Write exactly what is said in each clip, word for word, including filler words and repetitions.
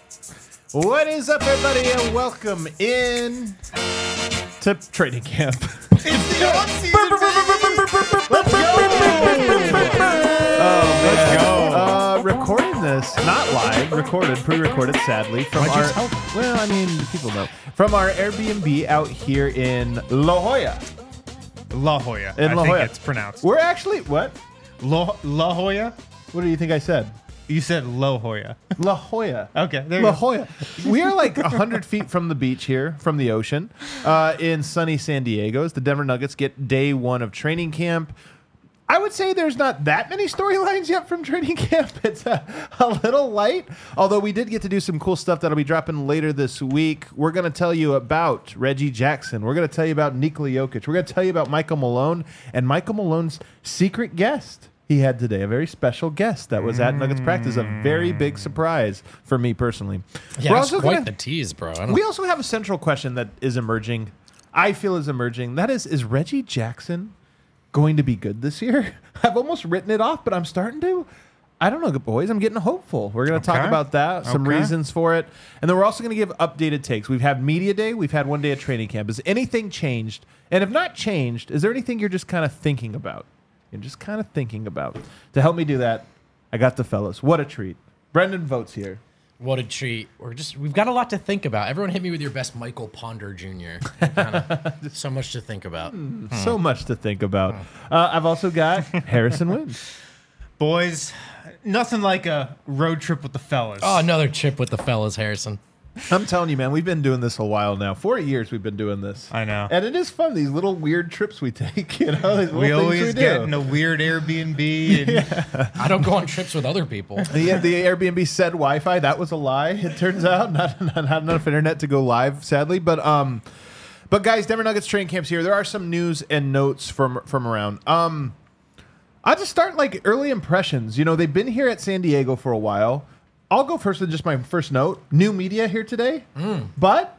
What is up, everybody, and welcome in to training camp. It's the off-season. Let's go! Oh, man. Let's go. Uh, recording this, not live, recorded, pre-recorded, sadly, from Why'd you our. tell them? Well, I mean, people know. From our Airbnb out here in La Jolla. La Jolla. In I La think Jolla. it's pronounced. We're actually what? La, La Jolla? What do you think I said? You said La Jolla. La Jolla. Okay, there you La go. Jolla. We are like one hundred feet from the beach here, from the ocean, uh, in sunny San Diego, as the Denver Nuggets get day one of training camp. I would say there's not that many storylines yet from training camp. It's a, a little light, although we did get to do some cool stuff that'll be dropping later this week. We're going to tell you about Reggie Jackson. We're going to tell you about Nikola Jokic. We're going to tell you about Michael Malone and Michael Malone's secret guest he had today, a very special guest that was at Nuggets practice, a very big surprise for me personally. Yeah, We're it's also quite gonna- the tease, bro. I don't we also have a central question that is emerging. I feel is emerging. That is, is Reggie Jackson going to be good this year? I've almost written it off, but I'm starting to. I don't know, boys. I'm getting hopeful. We're going to talk Okay. about that, some Okay. reasons for it. And then we're also going to give updated takes. We've had media day. We've had one day of training camp. Has anything changed? And if not changed, is there anything you're just kind of thinking about? You're just kind of thinking about. To help me do that, I got the fellas. What a treat. Brendan Votes here. What a treat. We're just we've got a lot to think about. Everyone hit me with your best Michael Ponder Junior Kinda, so much to think about. So much to think about. Uh, I've also got Harrison Wind. Boys, nothing like a road trip with the fellas. Oh, another chip with the fellas, Harrison. I'm telling you, man, we've been doing this a while now. Four years we've been doing this. I know. And it is fun, these little weird trips we take, you know? These little we things always we get do. in a weird Airbnb. And I don't go on trips with other people. The, the Airbnb said Wi-Fi. That was a lie, it turns out. Not, not, not enough internet to go live, sadly. But, um, but guys, Denver Nuggets training camps here. There are some news and notes from, from around. Um, I'll just start, like, early impressions. You know, they've been here at San Diego for a while. I'll go first with just my first note. New media here today, Mm. but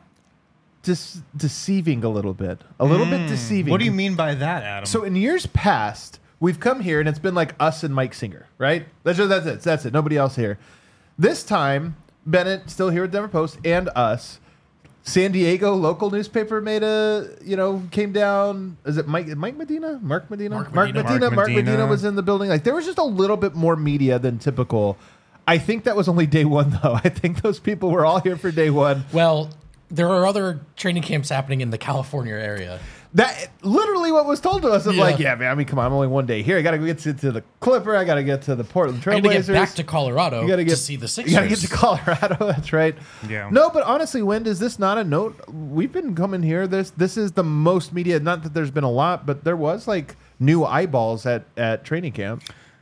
dis- deceiving a little bit. A little bit deceiving. what do you mean by that, Adam? So in years past, we've come here and it's been like us and Mike Singer, right? That's just, that's it. That's it. Nobody else here. This time, Bennett, still here at Denver Post, and us. San Diego local newspaper made a, you know, came down. Is it Mike Mike Medina? Mark Medina? Mark Mark Medina. Medina. Mark Mark Medina Medina was in the building. Like there was just a little bit more media than typical. I think that was only day one, though. I think those people were all here for day one. Well, there are other training camps happening in the California area. That literally what was told to us. Of Yeah. like, yeah, man. I mean, come on, I'm only one day here. I got to get to, to the Clipper. I got to get to the Portland I got to Trailblazers. get back to Colorado You gotta get to see the Sixers. You got to get to Colorado. That's right. Yeah. No, but honestly, Wind, is this not a note? We've been coming here. This this is the most media. Not that there's been a lot, but there was like new eyeballs at at training camp.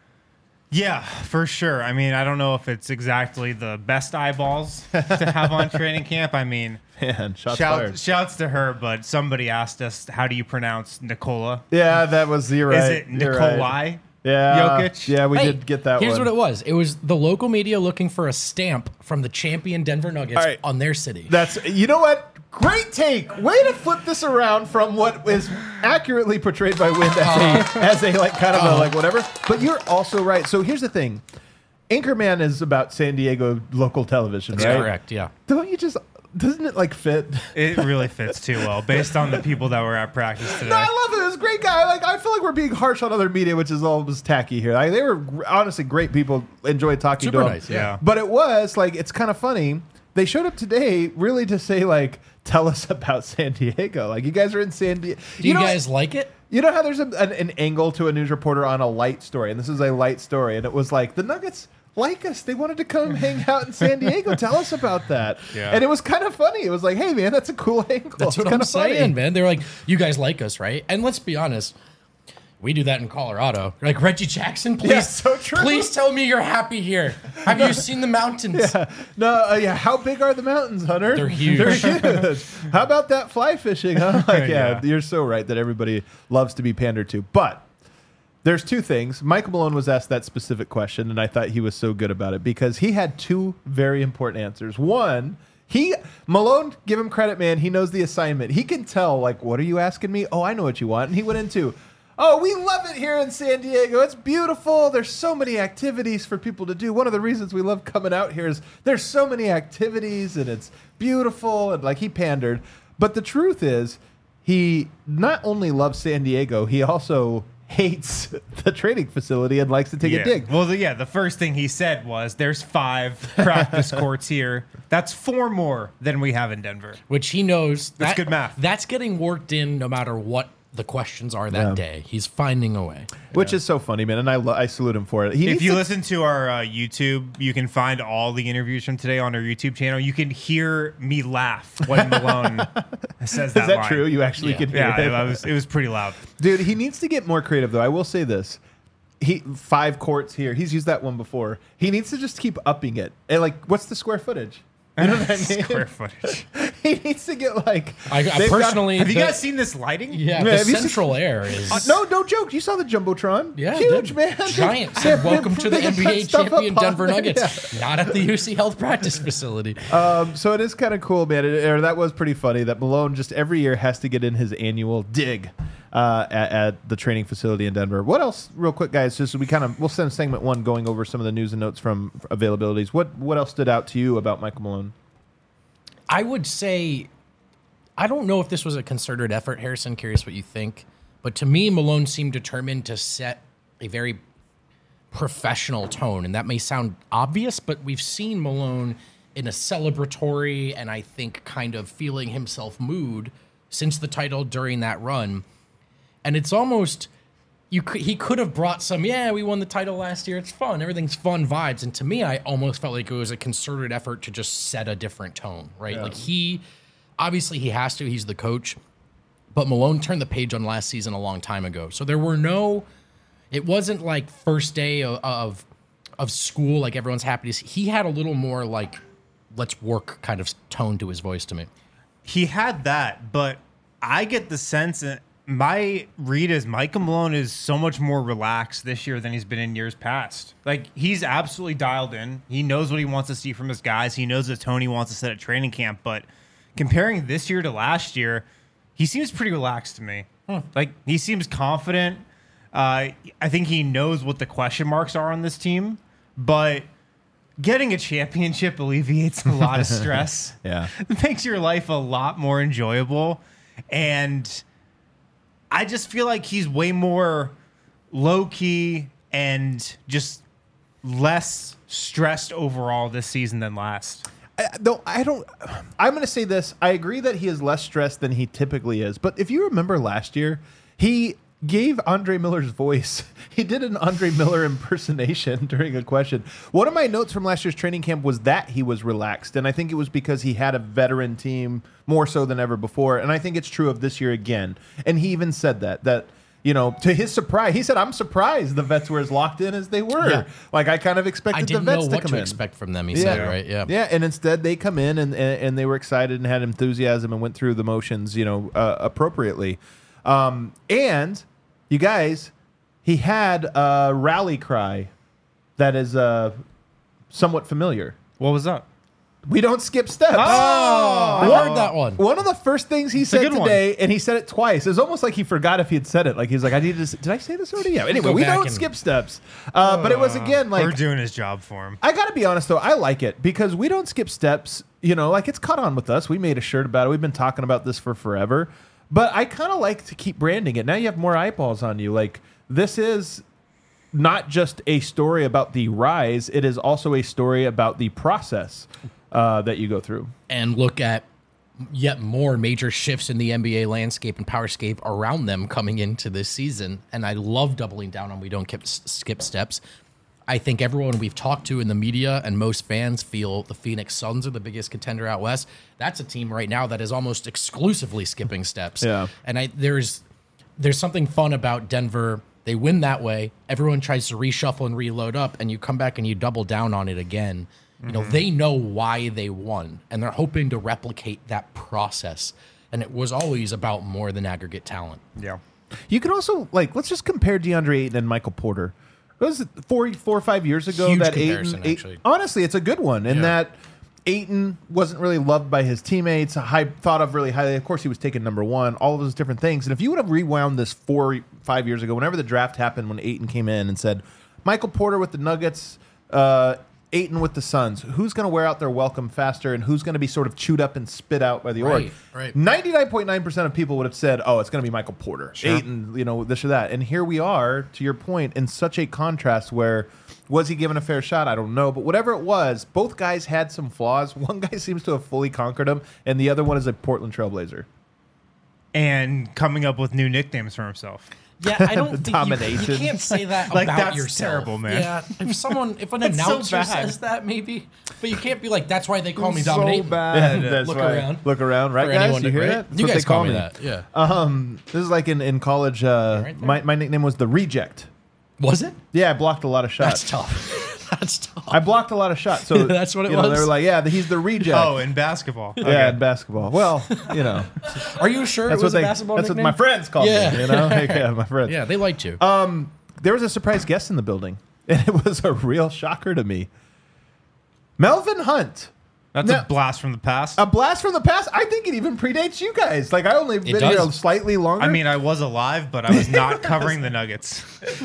Yeah, for sure. I mean, I don't know if it's exactly the best eyeballs to have on training camp. I mean, Man, shots shout, fired. shouts to her, but somebody asked us, how do you pronounce Nikola? Yeah, that was zero. Is it Nikolai Yeah, Jokic? Yeah, we Hey, did get that Here's one. what it was. It was the local media looking for a stamp from the champion Denver Nuggets All right. on their city. That's you know what? Great take. Way to flip this around from what is accurately portrayed by Wind as a, as a like kind of a like whatever. But you're also right. So here's the thing. Anchorman is about San Diego local television, That's right? correct, yeah. Don't you just doesn't it like fit? It really fits too well based on the people that were at practice today. No, I love it. It was a great guy. Like I feel like we're being harsh on other media, which is almost tacky here. Like, they were gr- honestly great people. Enjoyed talking Super to them. nice, yeah. But it was like it's kind of funny. They showed up today really to say like, tell us about San Diego. Like you guys are in San Diego. Do you, guys like it? You know how there's a, an, an angle to a news reporter on a light story, and this is a light story, and it was like the Nuggets like us. They wanted to come hang out in San Diego. Tell us about that. Yeah. And it was kind of funny. It was like, hey man, that's a cool angle. That's It's what I'm kinda saying, funny. man. They're like, you guys like us, right? And let's be honest, we do that in Colorado. Like Reggie Jackson, please, Yeah, so true. please tell me you're happy here. Have you seen the mountains? Yeah. No, uh, yeah. How big are the mountains, Hunter? They're huge. They're huge. How about that fly fishing? Huh? Like, yeah, Yeah. you're so right that everybody loves to be pandered to. But there's two things. Michael Malone was asked that specific question, and I thought he was so good about it because he had two very important answers. One, he Malone, give him credit, man. He knows the assignment. He can tell, like, what are you asking me? Oh, I know what you want. And he went into, Oh, we love it here in San Diego. It's beautiful. There's so many activities for people to do. One of the reasons we love coming out here is there's so many activities and it's beautiful. And like he pandered. But the truth is, he not only loves San Diego, he also hates the training facility and likes to take yeah. a dig. Well, the, yeah, the first thing he said was, there's five practice courts here. That's four more than we have in Denver. Which he knows. That's that, good math. That's getting worked in no matter what the questions are that Yeah. day. He's finding a way. Which is so funny, man, and I lo- I salute him for it. He If needs you to- listen to our uh, YouTube, you can find all the interviews from today on our YouTube channel. You can hear me laugh when Malone says that is that line. true? You actually Yeah. can hear Yeah, it. it was, it was pretty loud. Dude, he needs to get more creative, though. I will say this. He five courts here. He's used that one before. He needs to just keep upping it. And like, what's the square footage? You know what I mean? Square footage. He needs to get like. I, I they've got- personally. Have you the- guys seen this lighting? Yeah, Yeah, the have you seen- central air is. Uh, no, no joke. You saw the jumbotron? Yeah, huge, dude. man. Giant. They- Said, they- welcome to the they N B A put stuff up champion on Denver there. Nuggets. Yeah. Not at the U C Health practice facility. Um, so it is kind of cool, man. It, or that was pretty funny that Malone just every year has to get in his annual dig uh, at, at the training facility in Denver. What else, real quick, guys? Just so we kind of we'll send segment one going over some of the news and notes from availabilities. What what else stood out to you about Michael Malone? I would say, I don't know if this was a concerted effort, Harrison. Curious what you think. But to me, Malone seemed determined to set a very professional tone. And that may sound obvious, but we've seen Malone in a celebratory and I think kind of feeling himself mood since the title during that run. And it's almost, you could, he could have brought some, yeah, we won the title last year. It's fun. Everything's fun vibes. And to me, I almost felt like it was a concerted effort to just set a different tone, right? Yeah. Like he, obviously he has to, he's the coach, but Malone turned the page on last season a long time ago. So there were no, it wasn't like first day of, of, of school, like everyone's happy to see. He had a little more like, let's work kind of tone to his voice to me. He had that, but I get the sense that my read is Michael Malone is so much more relaxed this year than he's been in years past. Like, he's absolutely dialed in. He knows what he wants to see from his guys. He knows the tone he wants to set at training camp. But comparing this year to last year, he seems pretty relaxed to me. Hmm. Like, he seems confident. Uh, I think he knows what the question marks are on this team. But getting a championship alleviates a lot of stress. Yeah. It makes your life a lot more enjoyable. And I just feel like he's way more low-key and just less stressed overall this season than last. I, though I don't, I'm going to say this. I agree that he is less stressed than he typically is. But if you remember last year, he gave Andre Miller's voice. He did an Andre Miller impersonation during a question. One of my notes from last year's training camp was that he was relaxed. And I think it was because he had a veteran team more so than ever before. And I think it's true of this year again. And he even said that, that, you know, to his surprise, he said, I'm surprised the vets were as locked in as they were. Yeah. Like, I kind of expected I the didn't vets know to what come to in. expect from them, he said, right? Yeah. Yeah, and instead they come in and, and, and they were excited and had enthusiasm and went through the motions, you know, uh, appropriately. Um, and you guys, he had a rally cry that is uh, somewhat familiar. What was up? We don't skip steps. Oh! I One- heard that one. One of the first things he a said good one. today, and he said it twice. It was almost like he forgot if he had said it. Like he's like, I need to. s- Did I say this already? Yeah. Anyway, Go we back don't and- skip steps. Uh, but it was again like We're doing his job for him. I got to be honest, though. I like it because we don't skip steps. You know, like it's caught on with us. We made a shirt about it. We've been talking about this for forever. But I kind of like to keep branding it. Now you have more eyeballs on you. Like, this is not just a story about the rise, it is also a story about the process uh, that you go through. And look at yet more major shifts in the N B A landscape and powerscape around them coming into this season. And I love doubling down on we don't skip, skip steps. I think everyone we've talked to in the media and most fans feel the Phoenix Suns are the biggest contender out west. That's a team right now that is almost exclusively skipping steps. Yeah. And I there's there's something fun about Denver. They win that way. Everyone tries to reshuffle and reload up, and you come back and you double down on it again. You know, they know why they won, and they're hoping to replicate that process. And it was always about more than aggregate talent. Yeah. You can also, like, let's just compare DeAndre Ayton and Michael Porter. It was four, four or five years ago Huge that comparison, Ayton, Ayton- actually. honestly, it's a good one in Yeah. that Ayton wasn't really loved by his teammates, high, thought of really highly. Of course, he was taken number one, all of those different things. And if you would have rewound this four, five years ago, whenever the draft happened, when Ayton came in and said, Michael Porter with the Nuggets, uh, Ayton with the Suns, who's going to wear out their welcome faster and who's going to be sort of chewed up and spit out by the Right, org? right. ninety-nine point nine percent of people would have said, oh, it's going to be Michael Porter. Sure. Ayton, you know, this or that. And here we are, to your point, in such a contrast where was he given a fair shot? I don't know. But whatever it was, both guys had some flaws. One guy seems to have fully conquered them, and the other one is a Portland Trailblazer. And coming up with new nicknames for himself. Yeah, I don't The think you, domination. you can't say that Like, about that's yourself. terrible, man. Yeah, if someone, if an That's so announcer bad. says that, maybe, but you can't be like, "That's why they call me So Dominating." bad. That's Look why- around. Look around, right, For guys? anyone You to- hear right? that? That's You what guys they call call me me. that, yeah. Um, this is like in, in college. Uh, Right there. my, my nickname was the Reject. Was it? Yeah, I blocked a lot of shots. That's tough. That's tough. I blocked a lot of shots. So That's what it you know, They was? were like, yeah, he's the Reject. Oh, in basketball. yeah, Okay. in basketball. Well, you know, Are you sure that's it was what a they. basketball That's nickname? what my friends called Yeah. me. You know, Like, yeah, my friends. Yeah, they liked you. Um, there was a surprise guest in the building, and it was a real shocker to me. Melvin Hunt. That's Now- a blast from the past. A blast from the past. I think it even predates you guys. Like I only been here does. slightly longer. I mean, I was alive, but I was not covering the Nuggets.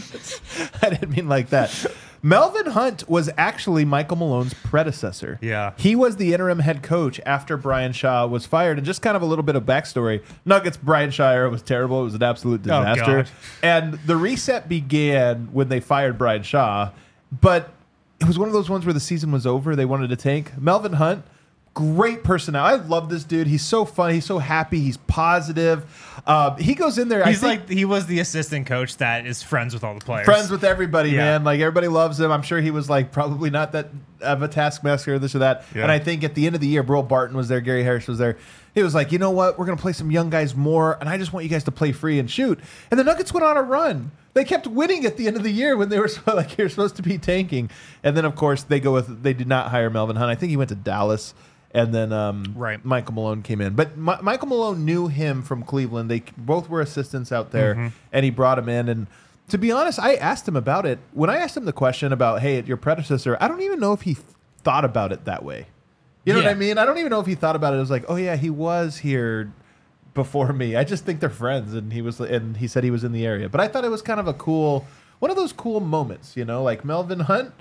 I didn't mean like that. Melvin Hunt was actually Michael Malone's predecessor. Yeah. He was the interim head coach after Brian Shaw was fired. And just kind of a little bit of backstory. Nuggets, Brian Shaw era was terrible. It was an absolute disaster. God. And the reset began when they fired Brian Shaw. But it was one of those ones where the season was over. They wanted to tank. Melvin Hunt, great personality. I love this dude. He's so fun. He's so happy. He's positive. Uh, he goes in there. He's I think, like he was the assistant coach that is friends with all the players. friends with everybody, Yeah. man. Like everybody loves him. I'm sure he was like probably not that of a taskmaster, this or that. Yeah. And I think at the end of the year, Burl Barton was there, Gary Harris was there. He was like, you know what? We're gonna play some young guys more, and I just want you guys to play free and shoot. And the Nuggets went on a run. They kept winning at the end of the year when they were so, like you're supposed to be tanking. And then of course they go with they did not hire Melvin Hunt. I think he went to Dallas. And then um, Right. Michael Malone came in. But Mi- Michael Malone knew him from Cleveland. They both were assistants out there, Mm-hmm. and he brought him in. And to be honest, I asked him about it. When I asked him the question about, hey, your predecessor, I don't even know if he th- thought about it that way. You know Yeah. what I mean? I don't even know if he thought about it. It was like, oh, yeah, he was here before me. I just think they're friends. And he was, and he said he was in the area. But I thought it was kind of a cool, one of those cool moments, you know, like Melvin Hunt.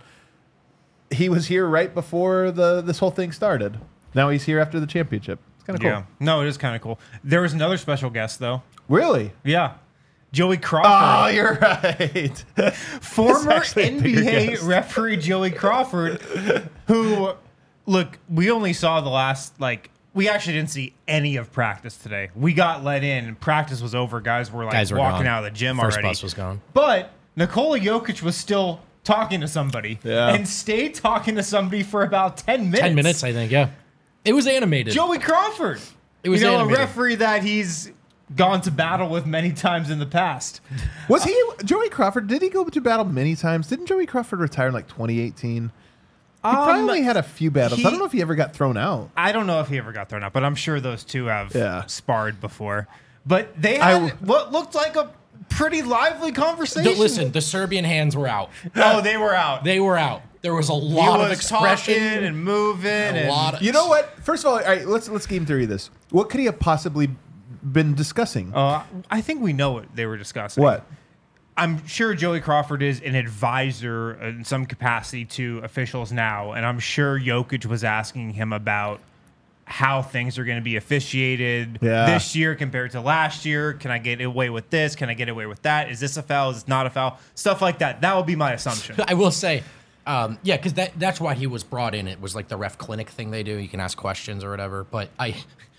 He was here right before the this whole thing started. Now he's here after the championship. It's kind of cool. Yeah. No, it is kind of cool. There was another special guest though. Really? Yeah. Joey Crawford. Oh, you're right. Former actually a bigger N B A guess. referee Joey Crawford, who, look, we only saw the last, like, we actually didn't see any of practice today. We got let in, and practice was over. Guys were, like, Guys were walking gone. out of the gym First already. bus was gone. But Nikola Jokic was still talking to somebody Yeah. and stayed talking to somebody for about ten minutes. Ten minutes, I think. Yeah, it was animated. Joey Crawford. It was you know, animated. a referee that he's gone to battle with many times in the past. Was he Joey Crawford? Did he go to battle many times? Didn't Joey Crawford retire in like twenty eighteen? He probably had a few battles. he- I don't know if he ever got thrown out. I don't know if he ever got thrown out, but I'm sure those two have Yeah. sparred before. But they I had w- what looked like a pretty lively conversation. The- listen, the Serbian hands were out. Oh, they were out. They were out. There was a he lot of was expression talking and moving. a and lot of, You know what? First of all, all right, let's let's game theory this. What could he have possibly been discussing? Uh, I think we know what they were discussing. What? I'm sure Joey Crawford is an advisor in some capacity to officials now, and I'm sure Jokic was asking him about how things are going to be officiated Yeah. this year compared to last year. Can I get away with this? Can I get away with that? Is this a foul? Is this not a foul? Stuff like that. That would be my assumption. I will say, um, yeah, because that that's why he was brought in. It was like the ref clinic thing they do. You can ask questions or whatever. But I,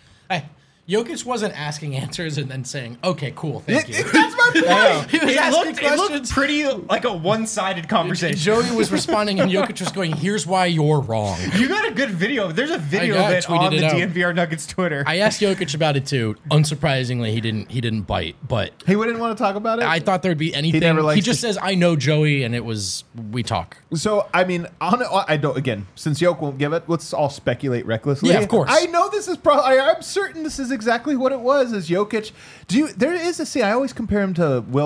I Jokic wasn't asking answers and then saying, "Okay, cool, thank you." That's my point. He was it, asking looked, it looked questions. pretty like a one-sided conversation. Joey was responding, and Jokic was going, "Here's why you're wrong." You got a good video. There's a video got of it, it tweeted on it the out. D N V R Nuggets Twitter. I asked Jokic about it too. Unsurprisingly, he didn't. He didn't bite. But He wouldn't want to talk about it. I thought there'd be anything. He, never likes just to- says, "I know Joey," and it was we talk. So I mean, on, I don't. Again, since Yoke won't give it, let's all speculate recklessly. Yeah, of course. I know this is probably. I'm certain this is exactly what it was. Is Jokic? Do you? There is a see. I always compare him to Will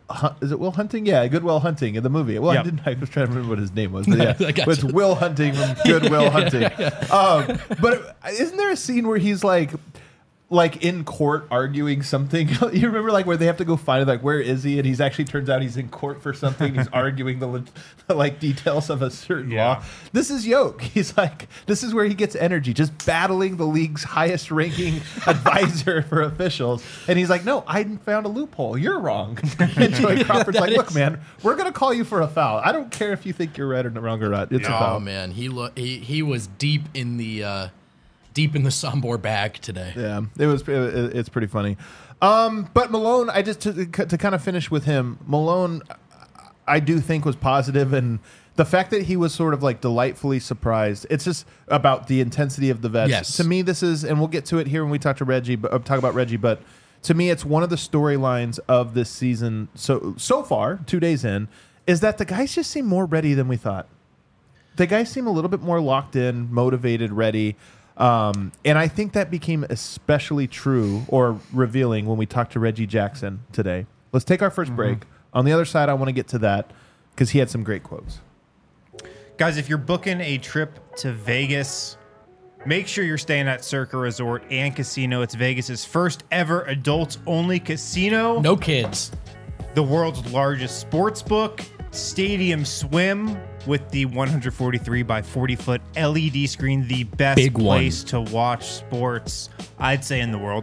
Hun- is it Will Hunting? Yeah, Good Will Hunting in the movie. Well, Yep. I didn't. I was trying to remember what his name was. But yeah, I got but it's you. Will Hunting from Good Will Hunting. Um, but isn't there a scene where he's like, like in court arguing something? You remember like where they have to go find it? Like, where is he? And he's actually turns out he's in court for something. He's arguing the, the like details of a certain Yeah. law. This is Yoke. He's like, this is where he gets energy, just battling the league's highest ranking advisor for officials. And he's like, no, I found a loophole. You're wrong. And Joey Crawford's like, look, man, we're gonna call you for a foul. I don't care if you think you're right or wrong or not. It's a Oh foul. man, he lo- he he was deep in the uh, deep in the Sombor bag today. Yeah, it was. It, it's pretty funny. Um, but Malone, I just to, to kind of finish with him. Malone, I do think was positive, and the fact that he was sort of like delightfully surprised. It's just about the intensity of the vets. Yes. To me, this is, and we'll get to it here when we talk to Reggie, but uh, talk about Reggie. But to me, it's one of the storylines of this season. So so far, two days in, is that the guys just seem more ready than we thought. The guys seem a little bit more locked in, motivated, ready. Um, and I think that became especially true or revealing when we talked to Reggie Jackson today. Let's take our 1st break. On the other side, I want to get to that because he had some great quotes. Guys, if you're booking a trip to Vegas, make sure you're staying at Circa Resort and Casino. It's Vegas's first ever adults-only casino. No kids. The world's largest sports book, Stadium Swim, with the one hundred forty-three by forty foot L E D screen, the best Big one. place to watch sports, I'd say, in the world.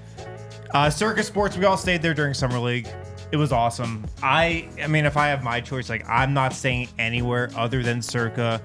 Uh, Circa Sports, we all stayed there during Summer League. It was awesome. I, I mean, if I have my choice, like I'm not staying anywhere other than Circa.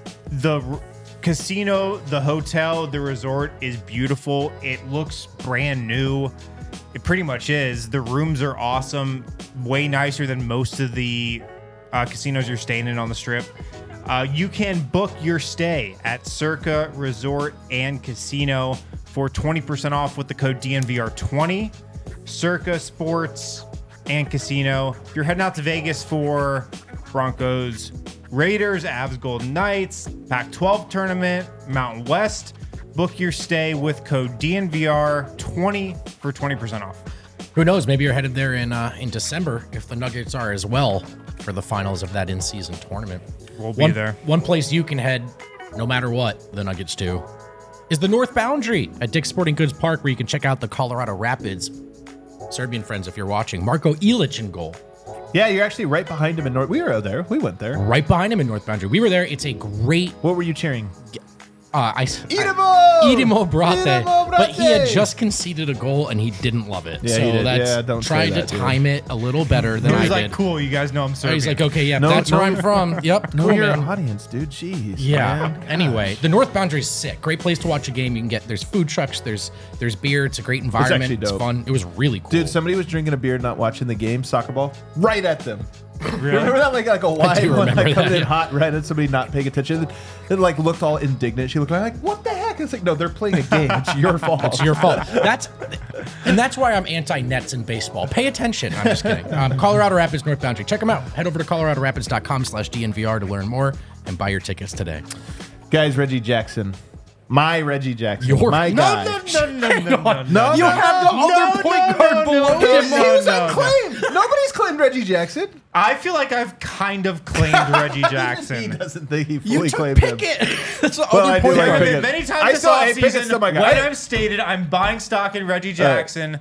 The r- casino, the hotel, the resort is beautiful. It looks brand new. It pretty much is. The rooms are awesome, way nicer than most of the uh, casinos you're staying in on the Strip. Uh, you can book your stay at Circa Resort and Casino for twenty percent off with the code D N V R twenty. Circa Sports and Casino. If you're heading out to Vegas for Broncos, Raiders, Avs, Golden Knights, Pac twelve tournament, Mountain West, book your stay with code D N V R twenty for twenty percent off. Who knows? Maybe you're headed there in uh, in December if the Nuggets are as well for the finals of that in-season tournament. We'll be one, there. One place you can head, no matter what the Nuggets do, is the North Boundary at Dick's Sporting Goods Park, where you can check out the Colorado Rapids. Serbian friends, if you're watching, Marko Ilic in goal. Yeah, you're actually right behind him in North. We were there. We went there. Right behind him in North Boundary. We were there. It's a great. What were you cheering? Uh, I, Idemo! Idemo Brate. Idemo But he had Brate! just conceded a goal and he didn't love it. Yeah, so he did. that's Yeah, don't say tried that, to dude. time it a little better than He I was like, did. cool, you guys know I'm Serbian. He's like, okay, yeah, No, that's no, where I'm you're- from. Yep, Know cool, your man. audience, dude. Jeez. Yeah. man. Anyway, the North Boundary's sick. Great place to watch a game. You can get there's food trucks, there's there's beer. It's a great environment. actually It's dope. fun. It was really cool. Dude, somebody was drinking a beer, not watching the game, soccer ball, right at them. Really? Remember that like like a wide do one remember like coming that, in yeah. hot right at somebody not paying attention. It like looked all indignant. She looked like, what the heck? It's like, no, they're playing a game. It's your fault. It's your fault. That's and that's why I'm anti-nets in baseball. Pay attention. I'm just kidding. Um, Colorado Rapids North Boundary. Check them out. Head over to colorado rapids dot com slash D N V R to learn more and buy your tickets today. Guys, Reggie Jackson. My Reggie Jackson. Your- my No, guy. no, no, no, no, no, No, You no, have no, the other no, point no, guard no, below no, him. He no, was no, unclaimed. Nobody's claimed Reggie Jackson. I feel like I've kind of claimed Reggie He Jackson. doesn't think he You fully took claimed him. Pickett. That's the Well, other I do point like guard. Pickett. Many times I this saw- hey, Pickett's offseason, still my when guy. I've stated I'm buying stock in Reggie Jackson,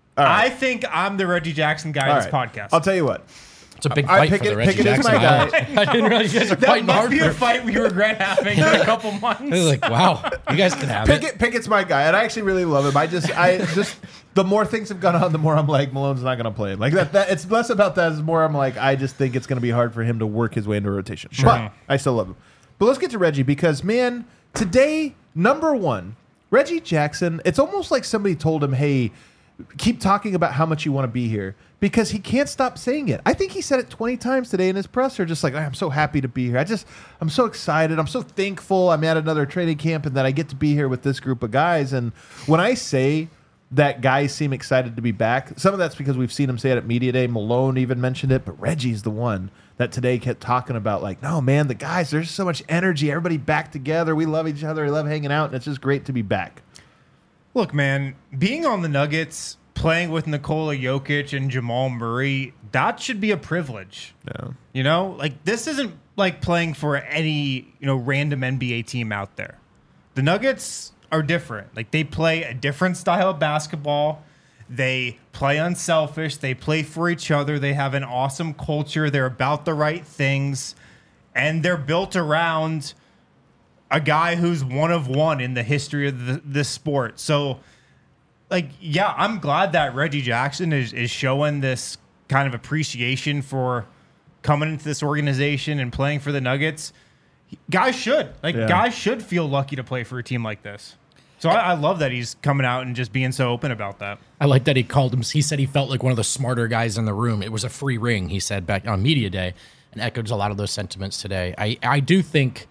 I think I'm the Reggie Jackson guy All in this right. podcast. I'll tell you what. It's a big I fight Pickett- for the Reggie Pickett is Jackson. my guy. I, I didn't realize you guys are that fighting might hard be for a fight we regret having in a couple months. I was like, wow, you guys can have it. Pickett, Pickett's my guy, and I actually really love him. I just, I just, the more things have gone on, the more I'm like, Malone's not going to play him. Like that, that. It's less about that. It's more I'm like, I just think it's going to be hard for him to work his way into rotation. But I still love him. But let's get to Reggie because, man, today, number one, Reggie Jackson. It's almost like somebody told him, hey, keep talking about how much you want to be here because he can't stop saying it. I think he said it twenty times today in his presser, just like, I'm so happy to be here. I just, I'm so excited. I'm so thankful I'm at another training camp and that I get to be here with this group of guys. And when I say that guys seem excited to be back, some of that's because we've seen him say it at Media Day. Malone even mentioned it, but Reggie's the one that today kept talking about like, no, man, the guys, there's so much energy. Everybody back together. We love each other. We love hanging out. And it's just great to be back. Look, man, being on the Nuggets, playing with Nikola Jokic and Jamal Murray, that should be a privilege. Yeah. You know, like this isn't like playing for any, you know, random N B A team out there. The Nuggets are different. Like they play a different style of basketball. They play unselfish. They play for each other. They have an awesome culture. They're about the right things. And they're built around a guy who's one of one in the history of the, this sport. So, like, yeah, I'm glad that Reggie Jackson is, is showing this kind of appreciation for coming into this organization and playing for the Nuggets. Guys should. Like, Yeah. guys should feel lucky to play for a team like this. So I, I love that he's coming out and just being so open about that. I like that he called him. He said he felt like one of the smarter guys in the room. It was a free ring, he said back on media day, and echoed a lot of those sentiments today. I, I do think,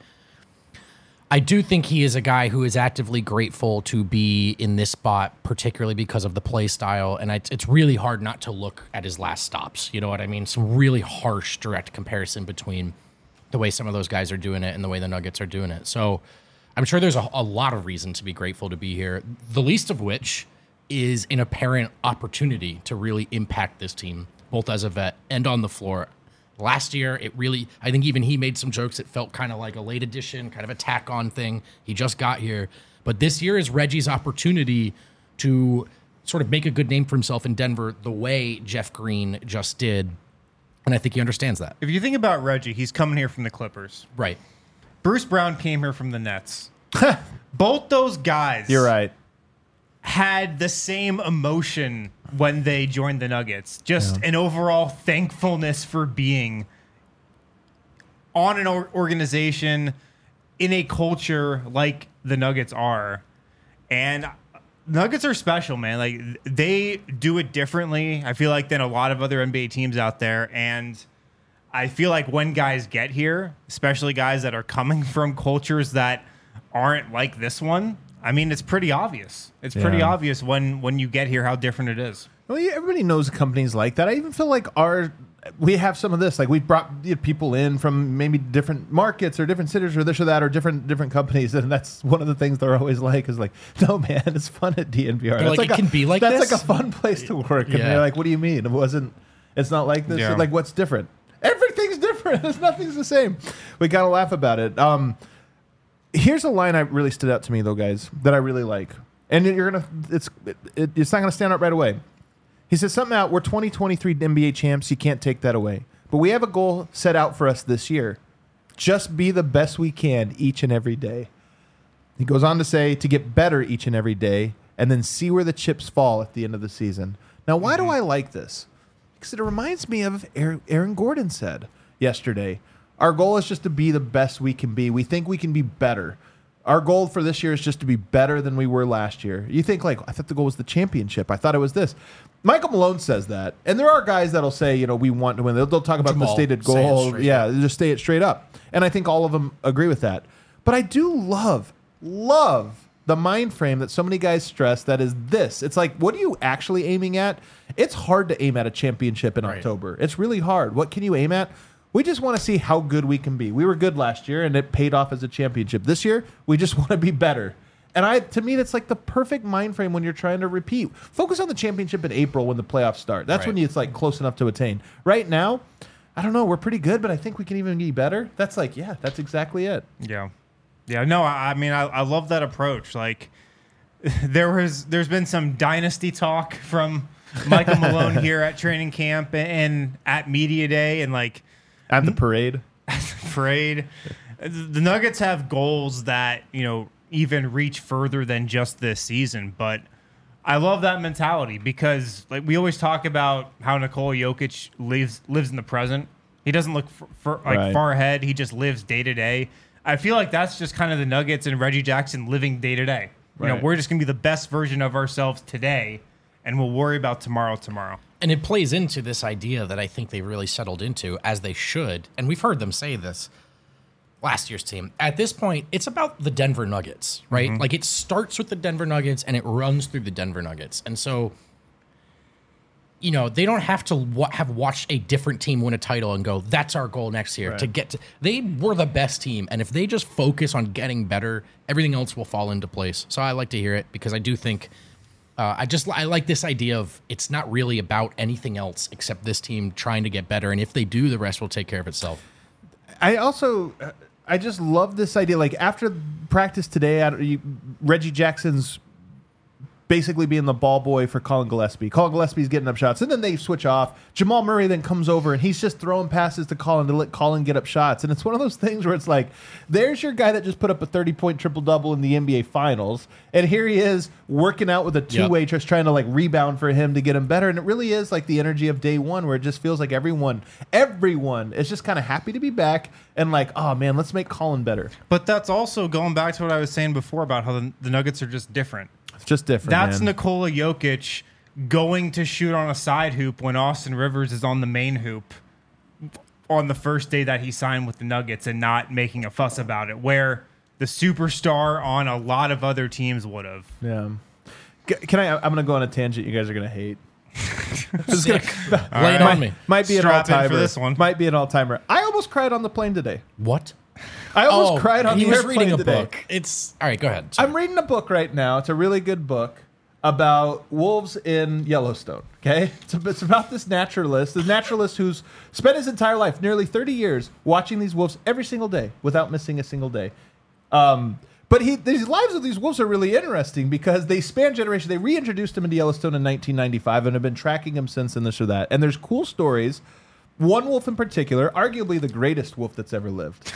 I do think he is a guy who is actively grateful to be in this spot, particularly because of the play style. And it's, it's really hard not to look at his last stops. You know what I mean? Some really harsh, direct comparison between the way some of those guys are doing it and the way the Nuggets are doing it. So I'm sure there's a, a lot of reason to be grateful to be here, the least of which is an apparent opportunity to really impact this team, both as a vet and on the floor. Last year, it really, I think even he made some jokes. It felt kind of like a late edition, kind of a tack on thing. He just got here. But this year is Reggie's opportunity to sort of make a good name for himself in Denver the way Jeff Green just did. And I think he understands that. If you think about Reggie, he's coming here from the Clippers. Right. Bruce Brown came here from the Nets. Both those guys You're right. had the same emotion when they joined the Nuggets. Just an overall thankfulness for being on an or- organization in a culture like the Nuggets are. And Nuggets are special, man. Like they do it differently, I feel like, than a lot of other N B A teams out there. And I feel like when guys get here, especially guys that are coming from cultures that aren't like this one, I mean, it's pretty obvious. It's pretty Yeah. obvious when when you get here how different it is. Well, yeah, everybody knows companies like that. I even feel like our we have some of this. Like we brought you know, people in from maybe different markets or different cities or this or that or different different companies, and that's one of the things they're always like is like, no man, it's fun at D N V R. They're That's like, it a, can be like that's this? like a fun place to work. And Yeah. they're like, what do you mean? It wasn't. It's not like this. Yeah. Like what's different? Everything's different. There's nothing's the same. We gotta laugh about it. Um, here's a line that really stood out to me though, guys, that I really like, and you're gonna. It's it, it, it's not gonna stand out right away. He says something out. We're twenty twenty-three N B A champs. You can't take that away. But we have a goal set out for us this year. Just be the best we can each and every day. He goes on to say to get better each and every day and then see where the chips fall at the end of the season. Now, why do I like this? Because it reminds me of Aaron, Aaron Gordon said yesterday. Our goal is just to be the best we can be. We think we can be better. Our goal for this year is just to be better than we were last year. You think like, I thought the goal was the championship. I thought it was this. Michael Malone says that. And there are guys that'll say, you know, we want to win. They'll, they'll talk about Jamal, the stated say it goal. straight Yeah, up. just stay it straight up. And I think all of them agree with that. But I do love, love the mind frame that so many guys stress that is this. It's like, what are you actually aiming at? It's hard to aim at a championship in Right. October. It's really hard. What can you aim at? We just want to see how good we can be. We were good last year, and it paid off as a championship. This year, we just want to be better. And I, to me, that's like the perfect mind frame when you're trying to repeat. Focus on the championship in April when the playoffs start. That's Right. when it's like close enough to attain. Right now, I don't know. We're pretty good, but I think we can even be better. That's like, yeah, that's exactly it. Yeah. Yeah, no, I, I mean I, I love that approach. Like there was there's been some dynasty talk from Michael Malone here at training camp and, and at media day and like At the parade. parade. The Nuggets have goals that, you know, even reach further than just this season, but I love that mentality because like we always talk about how Nikola Jokic lives lives in the present. He doesn't look for, for, like Right. far ahead. He just lives day to day. I feel like that's just kind of the Nuggets and Reggie Jackson living day to day. You know, Right. we're just going to be the best version of ourselves today and we'll worry about tomorrow tomorrow. And it plays into this idea that I think they've really settled into, as they should. And we've heard them say this last year's team. At this point, it's about the Denver Nuggets, right? Mm-hmm. Like it starts with the Denver Nuggets and it runs through the Denver Nuggets. And so, you know, they don't have to wa- have watched a different team win a title and go, that's our goal next year Right. to get to. They were the best team. And if they just focus on getting better, everything else will fall into place. So I like to hear it because I do think Uh, I just I like this idea of it's not really about anything else except this team trying to get better, and if they do, the rest will take care of itself. I also, I just love this idea. Like after practice today, I don't- you- Reggie Jackson's basically being the ball boy for Colin Gillespie. Colin Gillespie's getting up shots, and then they switch off. Jamal Murray then comes over, and he's just throwing passes to Colin to let Colin get up shots. And it's one of those things where it's like, there's your guy that just put up a thirty-point triple-double in the N B A Finals, and here he is working out with a two-way, Yep. just trying to like rebound for him to get him better. And it really is like the energy of day one, where it just feels like everyone, everyone is just kind of happy to be back and like, oh man, let's make Colin better. But that's also going back to what I was saying before about how the, the Nuggets are just different. It's just different. That's man. Nikola Jokic going to shoot on a side hoop when Austin Rivers is on the main hoop on the first day that he signed with the Nuggets and not making a fuss about it, where the superstar on a lot of other teams would have. Yeah. C- Can I? I'm gonna go on a tangent. You guys are gonna hate. Sick. Lay it right. on me. Might be an Strap in all timer for this one. Might be an all timer. I almost cried on the plane today. What? I almost cried on he the was airplane reading a today. book. It's all right. Go ahead. Sorry. I'm reading a book right now. It's a really good book about wolves in Yellowstone. Okay, it's, a, it's about this naturalist, the naturalist who's spent his entire life, nearly thirty years, watching these wolves every single day without missing a single day. Um, but he, these lives of these wolves are really interesting because they span generations. They reintroduced him into Yellowstone in nineteen ninety-five and have been tracking him since, and this or that. And there's cool stories. One wolf in particular, arguably the greatest wolf that's ever lived.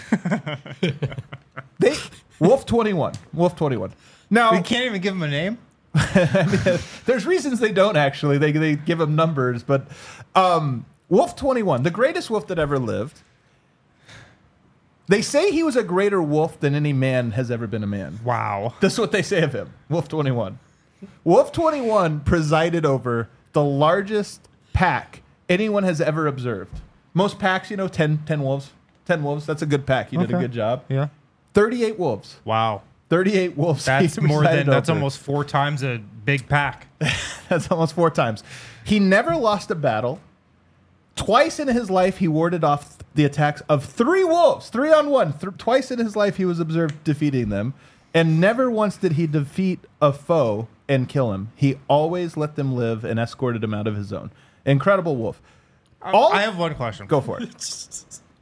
they Wolf twenty-one. Wolf twenty-one. Now We can't even give him a name. there's reasons they don't actually. They they give him numbers, but um, Wolf twenty-one, the greatest wolf that ever lived. They say he was a greater wolf than any man has ever been a man. Wow. This is what they say of him. Wolf twenty-one. Wolf twenty-one presided over the largest pack anyone has ever observed. Most packs, you know, ten, ten wolves. ten wolves. That's a good pack. You did a Okay. good job. Yeah. thirty-eight wolves. Wow. thirty-eight wolves. That's he more presided than, that's over. almost four times a big pack. That's almost four times. He never lost a battle. Twice in his life, he warded off the attacks of three wolves, three on one. Th- twice in his life, he was observed defeating them. And never once did he defeat a foe and kill him. He always let them live and escorted them out of his zone. Incredible wolf. All- I have one question. Go for it.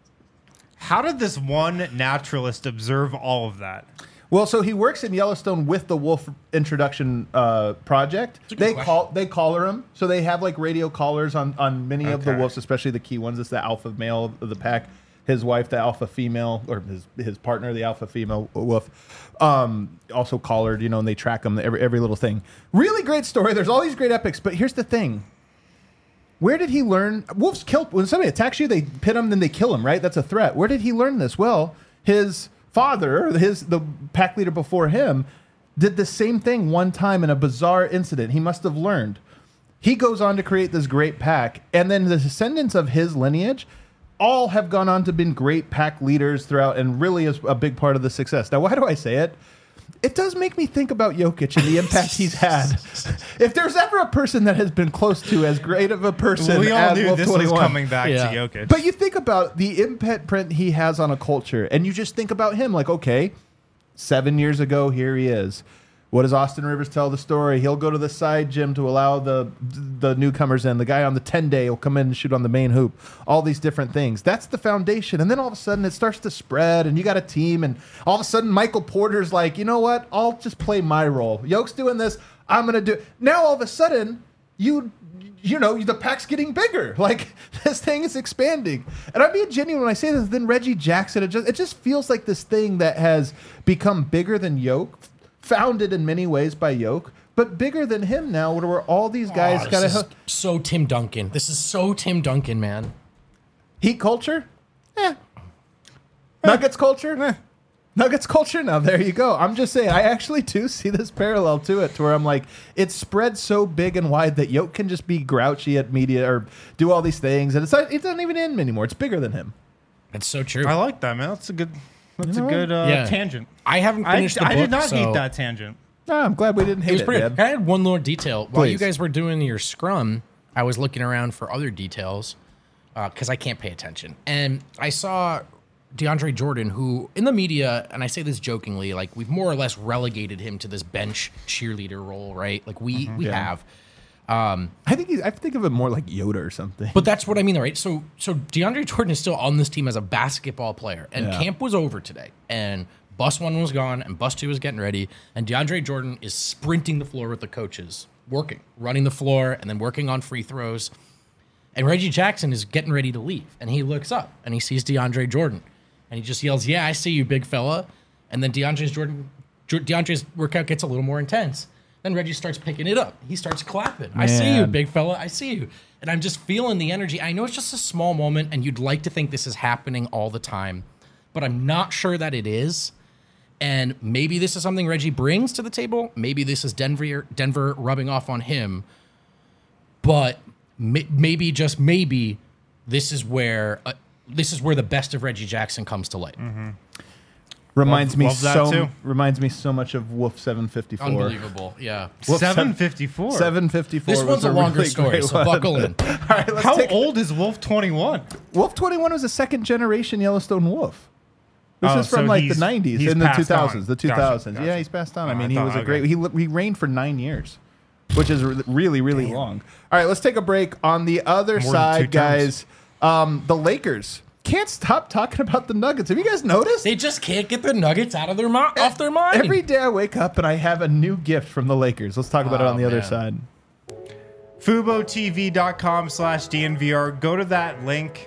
How did this one naturalist observe all of that? Well, so he works in Yellowstone with the wolf introduction uh, project. a good They question. call they collar him, so they have like radio collars on on many of the Okay. wolves, especially the key ones. It's the alpha male of the pack. His wife, the alpha female, or his his partner, the alpha female wolf, um, also collared. You know, and they track him every every little thing. Really great story. There's all these great epics, but here's the thing. Where did he learn? Wolves kill when somebody attacks you. They pit him, then they kill him. Right? That's a threat. Where did he learn this? Well, his father, his the pack leader before him, did the same thing one time in a bizarre incident. He must have learned. He goes on to create this great pack, and then the descendants of his lineage all have gone on to been great pack leaders throughout, and really is a big part of the success. Now, why do I say it? It does make me think about Jokic and the impact he's had. If there's ever a person that has been close to as great of a person We all as knew Wolf this twenty-one, was coming back Yeah. to Jokic. but you think about the impact print he has on a culture, and you just think about him like, okay, seven years ago, here he is. What does Austin Rivers tell the story? He'll go to the side gym to allow the the newcomers in. The guy on the ten day will come in and shoot on the main hoop. All these different things. That's the foundation. And then all of a sudden it starts to spread, and you got a team, and all of a sudden Michael Porter's like, you know what? I'll just play my role. Yoke's doing this. I'm gonna do. Now all of a sudden you. You know, the pack's getting bigger. Like, this thing is expanding. And I'm being genuine when I say this. Then Reggie Jackson, it just, it just feels like this thing that has become bigger than Yoke, founded in many ways by Yoke, but bigger than him now, where all these guys Oh, got this is to so Tim Duncan. This is so Tim Duncan, man. heat culture. Eh. Nuggets culture. Eh. Nuggets culture. Now there you go. I'm just saying. I actually do see this parallel to it, to where I'm like, it's spread so big and wide that Yoke can just be grouchy at media or do all these things, and it's not, it doesn't even end anymore. It's bigger than him. That's so true. I like that, man. That's a good. That's know a good uh, Yeah. tangent. I haven't I, finished the I book, did not so hate that tangent. Oh, I'm glad we didn't It hate was it, pretty. man. I had one more detail while you Please. guys were doing your scrum. I was looking around for other details because I can't pay attention, and I saw DeAndre Jordan, who in the media, and I say this jokingly, like we've more or less relegated him to this bench cheerleader role, right? Like we we Yeah. have. Um, I think he's, I think of it more like Yoda or something. But that's what I mean, right? So, so DeAndre Jordan is still on this team as a basketball player, and Yeah. camp was over today, and bus one was gone, and bus two was getting ready, and DeAndre Jordan is sprinting the floor with the coaches, working, running the floor, and then working on free throws. And Reggie Jackson is getting ready to leave, and he looks up and he sees DeAndre Jordan, and he just yells, "Yeah, I see you, big fella." And then DeAndre's Jordan, DeAndre's workout gets a little more intense. Then Reggie starts picking it up. He starts clapping. I see you, Man. big fella. I see you. And I'm just feeling the energy. I know it's just a small moment, and you'd like to think this is happening all the time, but I'm not sure that it is. And maybe this is something Reggie brings to the table. Maybe this is Denver, Denver rubbing off on him. But may, maybe, just maybe, this is where uh, this is where the best of Reggie Jackson comes to light. Mm-hmm. Reminds Love- me love that so too. reminds me so much of Wolf seven fifty-four. Unbelievable. Yeah. Wolf seven fifty-four. seven fifty-four. This was one's a longer really story, great so one. buckle in. All right, let's How take old is Wolf twenty-one? Wolf twenty-one was a second generation Yellowstone wolf. This Oh, is from so like the he's- nineties he's and the passed two thousands. on. The two Gotcha, thousands. gotcha. Yeah, he's passed on. I Oh, mean, I he thought- was a okay. great. He li- he reigned for nine years, which is re- really really long. All right, let's take a break. On the other More than two side, terms. guys, um, the Lakers can't stop talking about the Nuggets. Have you guys noticed? They just can't get the Nuggets out of their mo- off their mind. Every day I wake up and I have a new gift from the Lakers. Let's talk about it Oh, on the other man. side. FuboTV.com slash DNVR. Go to that link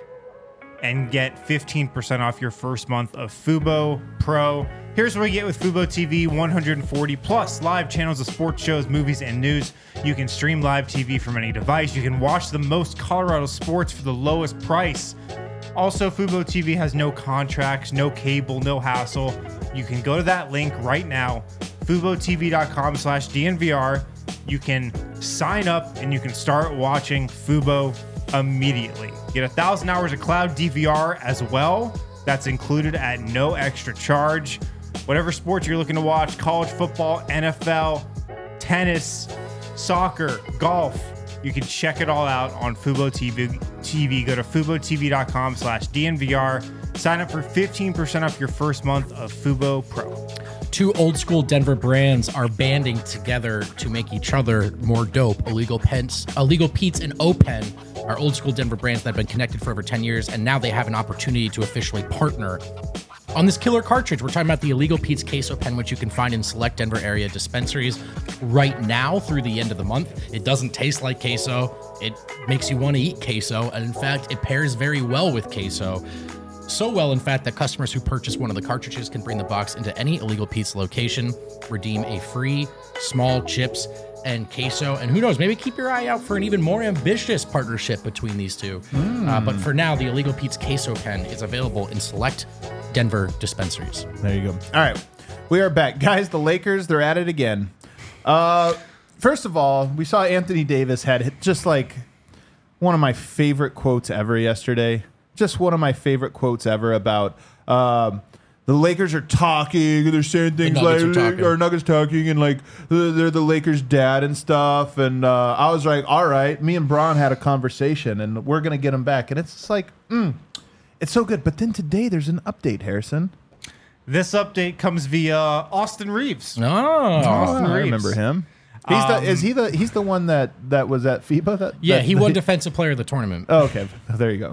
and get fifteen percent off your first month of Fubo Pro. Here's what we get with Fubo T V: one hundred forty plus live channels of sports shows, movies, and news. You can stream live T V from any device. You can watch the most Colorado sports for the lowest price. Also, Fubo T V has no contracts, no cable, no hassle. You can go to that link right now, FuboTV.com slash DNVR. You can sign up and you can start watching Fubo immediately. Get a thousand hours of cloud D V R as well. That's included at no extra charge. Whatever sports you're looking to watch, college football, N F L, tennis, soccer, golf, you can check it all out on Fubo T V. T V. Go to FuboTV.com slash DNVR. Sign up for fifteen percent off your first month of Fubo Pro. Two old school Denver brands are banding together to make each other more dope. Illegal Pence, Illegal Pete's, and O-Pen are old school Denver brands that have been connected for over ten years, and now they have an opportunity to officially partner on this killer cartridge. We're talking about the Illegal Pete's Queso Pen, which you can find in select Denver area dispensaries right now through the end of the month. It doesn't taste like queso. It makes you want to eat queso, and in fact, it pairs very well with queso. So well, in fact, that customers who purchase one of the cartridges can bring the box into any Illegal Pete's location, redeem a free small chips and queso, and who knows, maybe keep your eye out for an even more ambitious partnership between these two. Mm. Uh, but for now, the Illegal Pete's Queso Pen is available in select Denver dispensaries. There you go. All right. We are back. Guys, the Lakers, they're at it again. Uh, first of all, we saw Anthony Davis had just like one of my favorite quotes ever yesterday. Just one of my favorite quotes ever about um, the Lakers are talking. They're saying things like, Nuggets are talking. or Nuggets talking, and like they're they're the Lakers' dad and stuff. And uh, I was like, all right, me and Braun had a conversation, and we're going to get him back. And it's just like, mm, it's so good. But then today there's an update, Harrison. This update comes via Austin Reeves. Oh, Austin I Reeves. remember him. He's the Um, is he the he's the one that that was at FIBA. That yeah, that- he that- won Defensive Player of the Tournament. Oh, okay, there you go.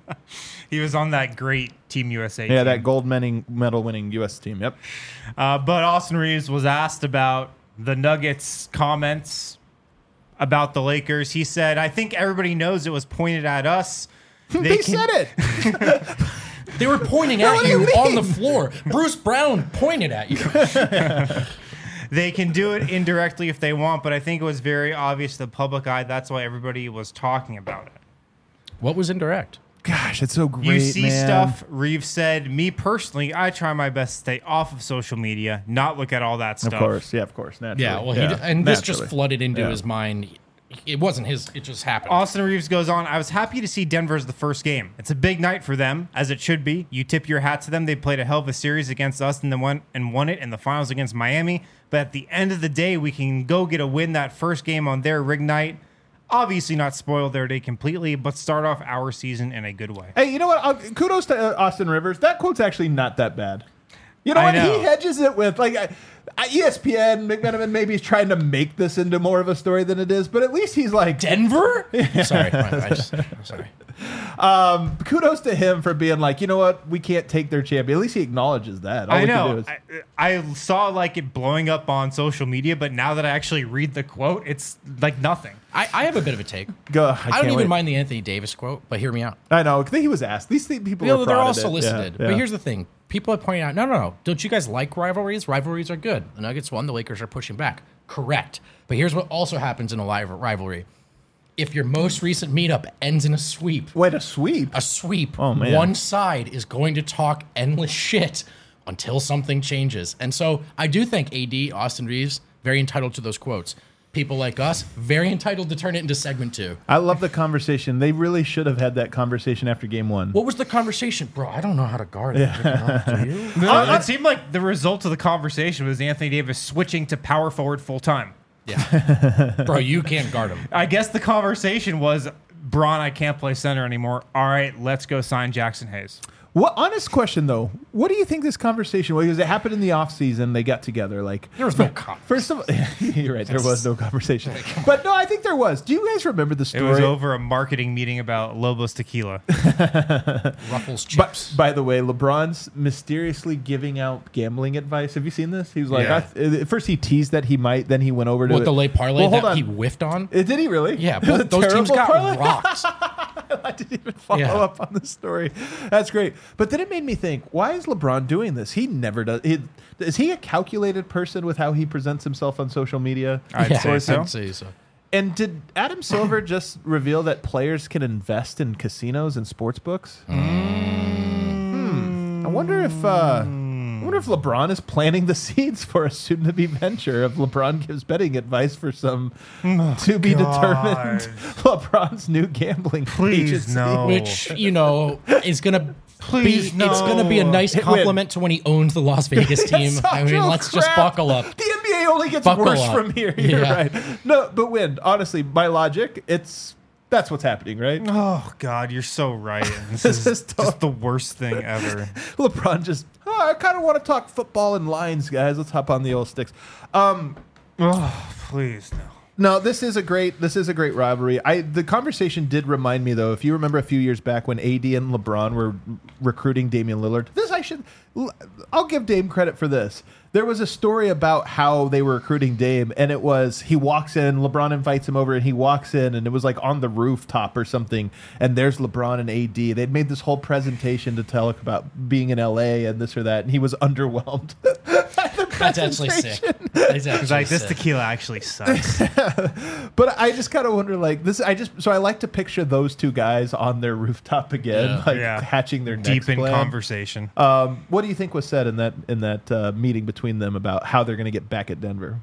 He was on that great Team U S A Yeah, team. that gold medal medal winning U S team. Yep. Uh, but Austin Reeves was asked about the Nuggets' comments about the Lakers. He said, I think everybody knows it was pointed at us. They, can- said it. They were pointing No, at what do you you on mean? the floor. Bruce Brown pointed at you. They can do it indirectly if they want, but I think it was very obvious to the public eye. That's why everybody was talking about it. What was indirect? Gosh, it's so great. You see man. stuff, Reeves said, me personally, I try my best to stay off of social media, not look at all that Of stuff. course, yeah, of course, naturally. Yeah, well, he Yeah, and this just naturally. flooded into Yeah. his mind. It wasn't his. It just happened. Austin Reeves goes on, I was happy to see Denver as the first game. It's a big night for them, as it should be. You tip your hat to them. They played a hell of a series against us and then won and won it in the finals against Miami. But at the end of the day, we can go get a win that first game on their rig night. obviously not spoil their day completely, but start off our season in a good way. Hey, you know what? Uh, kudos to uh, Austin Rivers. That quote's actually not that bad. You know I what? know. He hedges it with like uh, E S P N. McMenamin maybe is trying to make this into more of a story than it is, but at least he's like Denver? Sorry, I just, I'm sorry. Um, kudos to him for being like, you know what? We can't take their champion. At least he acknowledges that. All I we can know. do is- I, I saw like it blowing up on social media, but now that I actually read the quote, it's like nothing. I, I have a bit of a take. Go. I, I, can't don't even wait. mind the Anthony Davis quote, but hear me out. I know. I think he was asked. These th- people You were know, they're all prodded it. solicited. Yeah, But yeah. here's the thing. People are pointing out, no, no, no. Don't you guys like rivalries? Rivalries are good. The Nuggets won. The Lakers are pushing back. Correct. But here's what also happens in a live rivalry. If your most recent meetup ends in a sweep, Wait, a sweep? a sweep, Oh, man. one side is going to talk endless shit until something changes. And so I do think A D, Austin Reeves, very entitled to those quotes. People like us, very entitled to turn it into segment two. I love the conversation. They really should have had that conversation after game one. What was the conversation? Bro, I don't know how to guard it. Do you? No, it seemed like the result of the conversation was Anthony Davis switching to power forward full time. Yeah. Bro, you can't guard him. I guess the conversation was, Bron, I can't play center anymore. All right, let's go sign Jackson Hayes. What honest question though? What do you think this conversation was? Because it happened in the off season. They got together. Like There was no conversation. first of all, you're right. There was no conversation. But no, I think there was. Do you guys remember the It story? was over a marketing meeting about Lobos tequila. Ruffles But chips. by the way, LeBron's mysteriously giving out gambling advice. Have you seen this? He was like, Yeah. I th- at first he teased that he might, then he went over to What, it. the late parlay Well, hold that on. he whiffed on? Uh, Did he really? Yeah, It was a both those teams terrible got parlay. rocked. I didn't even follow Yeah. up on the story. That's great. But then it made me think, why is LeBron doing this? He never does. He, is he a calculated person with how he presents himself on social media? I'd yeah, say so. I'd say so. And did Adam Silver just reveal that players can invest in casinos and sports books? Hmm. I wonder if uh, I wonder if LeBron is planting the seeds for a soon-to-be venture of LeBron gives betting advice for some to be determined LeBron's new gambling Please, agency. no. Which, you know, is going to Please, be, it's going to be a no. nice Hit win. compliment to when he owns the Las Vegas team. That's I mean, real let's just crap. buckle up. The N B A only gets Buckle worse up. from here. You're Yeah. right. No, but Win, honestly, by logic, it's that's what's happening, right? Oh, God, you're so right. This, This is, is tough. just the worst thing ever. LeBron just, oh, I kind of want to talk football and lines, guys. Let's hop on the old sticks. Um, Oh, please, no. no, this is a great this is a great rivalry. I the conversation did remind me though, if you remember a few years back when A D and LeBron were recruiting Damian Lillard. This I should I'll give Dame credit for this. There was a story about how they were recruiting Dame, and it was he walks in, LeBron invites him over, and he walks in, and it was like on the rooftop or something, and there's LeBron and A D. They'd made this whole presentation to tell about being in L A and this or that, and he was underwhelmed. That's actually sick. That's actually It's like, this sick. tequila actually sucks. But I just kind of wonder, like this. I just so I like to picture those two guys on their rooftop again, Yeah. like Yeah. hatching their Deep next in plan. conversation. Um, what do you think was said in that in that uh, meeting between them about how they're going to get back at Denver?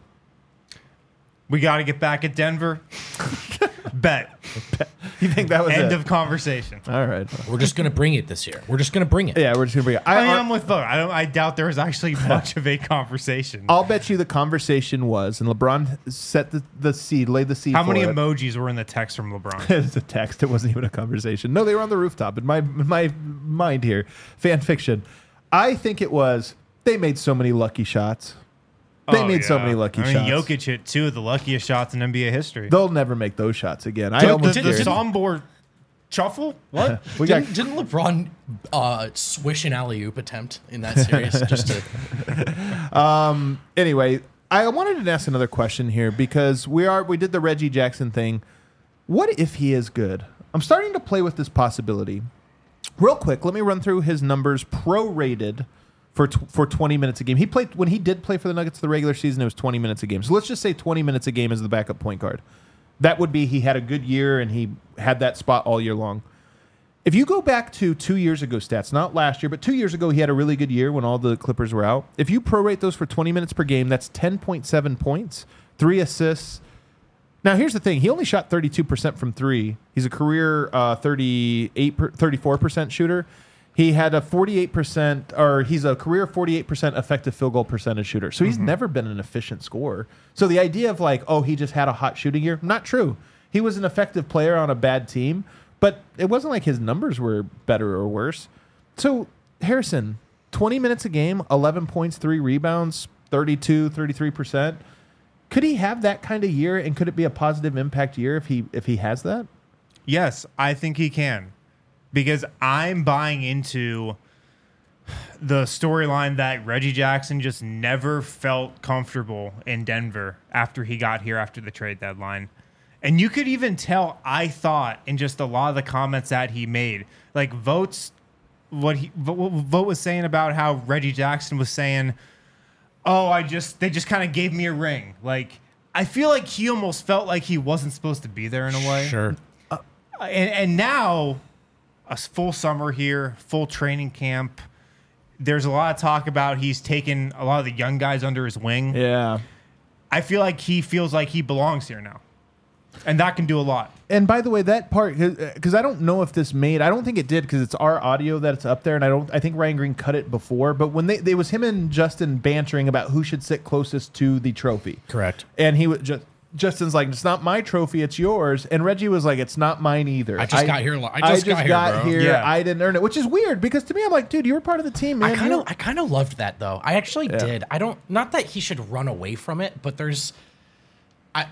We got to get back at Denver. Bet. You think that was End it? of conversation. All right. We're just going to bring it this year. We're just going to bring it. Yeah, we're just gonna bring it. I, I, mean, I, I'm with both. I don't. I doubt there was actually much of a conversation. I'll bet you the conversation was, and LeBron set the, the seed, laid the seed. How for many it. emojis were in the text from LeBron? It's a text. It wasn't even a conversation. No, they were on the rooftop. In my in my mind here, fan fiction. I think it was. They made so many lucky shots. They Oh, made so yeah. many lucky I mean, shots. Jokic hit two of the luckiest shots in N B A history. They'll never make those shots again. I the, almost the, the guarantee- Sombor shuffle? What? we got Didn't, didn't LeBron uh, swish an alley oop attempt in that series? just to, anyway. I wanted to ask another question here because we are we did the Reggie Jackson thing. What if he is good? I'm starting to play with this possibility. Real quick, let me run through his numbers prorated for tw- for twenty minutes a game. He played when he did play for the Nuggets the regular season. It was twenty minutes a game. So let's just say twenty minutes a game as the backup point guard. That would be he had a good year and he had that spot all year long. If you go back to two years ago stats, not last year, but two years ago, he had a really good year when all the Clippers were out. If you prorate those for twenty minutes per game, that's ten point seven points, three assists. Now, here's the thing. He only shot thirty-two percent from three. He's a career uh, thirty-eight, thirty-four percent shooter. He had a forty-eight percent, or he's a career forty-eight percent effective field goal percentage shooter. So he's never been an efficient scorer. So the idea of like, oh, he just had a hot shooting year, not true. He was an effective player on a bad team, but it wasn't like his numbers were better or worse. So, Harrison, twenty minutes a game, eleven points, three rebounds, thirty-two, thirty-three percent. Could he have that kind of year, and could it be a positive impact year if he if he has that? Yes, I think he can. Because I'm buying into the storyline that Reggie Jackson just never felt comfortable in Denver after he got here after the trade deadline. And you could even tell, I thought, in just a lot of the comments that he made, like Votes, what he what Vote was saying about how Reggie Jackson was saying, oh, I just, they just kind of gave me a ring. Like, I feel like he almost felt like he wasn't supposed to be there in a way. Sure. Uh, and, and now, a full summer here, full training camp. There's a lot of talk about he's taken a lot of the young guys under his wing. Yeah. I feel like he feels like he belongs here now. And that can do a lot. And by the way, that part, because I don't know if this made, I don't think it did because it's our audio that's up there, and I don't, I think Ryan Green cut it before. But when they, it was him and Justin bantering about who should sit closest to the trophy. Correct. And he was just, Justin's like, it's not my trophy, it's yours. And Reggie was like, it's not mine either. I just got here. li- I just got here, bro. here. Yeah. I didn't earn it, which is weird because to me, I'm like, dude, you were part of the team, man. I kind You- of, I kind of loved that though. I actually Yeah. did. I don't, not that he should run away from it, but there's, I,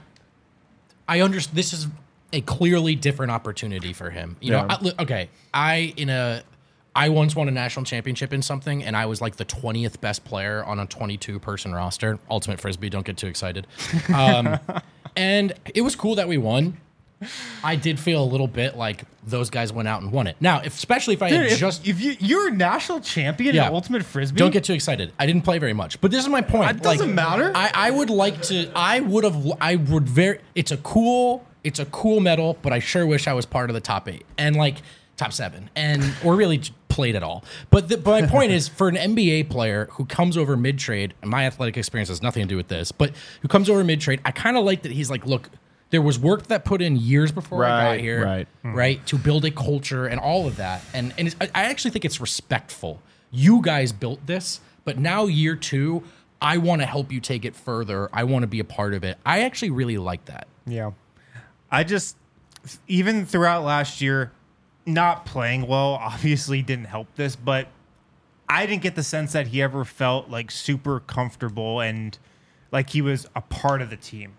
I understand. This is a clearly different opportunity for him. You know, Yeah. I, li- okay. I in a, I once won a national championship in something, and I was like the twentieth best player on a twenty-two person roster. Ultimate Frisbee. Don't get too excited. Um, and it was cool that we won. I did feel a little bit like those guys went out and won it. Now, if, especially if I Dude, had if, just if you, you're a national champion Yeah. in Ultimate Frisbee, Don't get too excited. I didn't play very much, but this is my point. It doesn't Like, matter. I, I would like to. I would have. I would very. It's a cool. It's a cool medal, but I sure wish I was part of the top eight and like top seven, and or really j- played at all. But, the, but my point is, for an N B A player who comes over mid trade, and my athletic experience has nothing to do with this, but who comes over mid trade, I kind of like that he's like, look. There was work that put in years before I Right, got here, right. right, to build a culture and all of that, and and it's, I I actually think it's respectful. You guys built this, but now year two, I want to help you take it further. I want to be a part of it. I actually really like that. Yeah. I just, even throughout last year, not playing well obviously didn't help this, but I didn't get the sense that he ever felt like super comfortable and like he was a part of the team.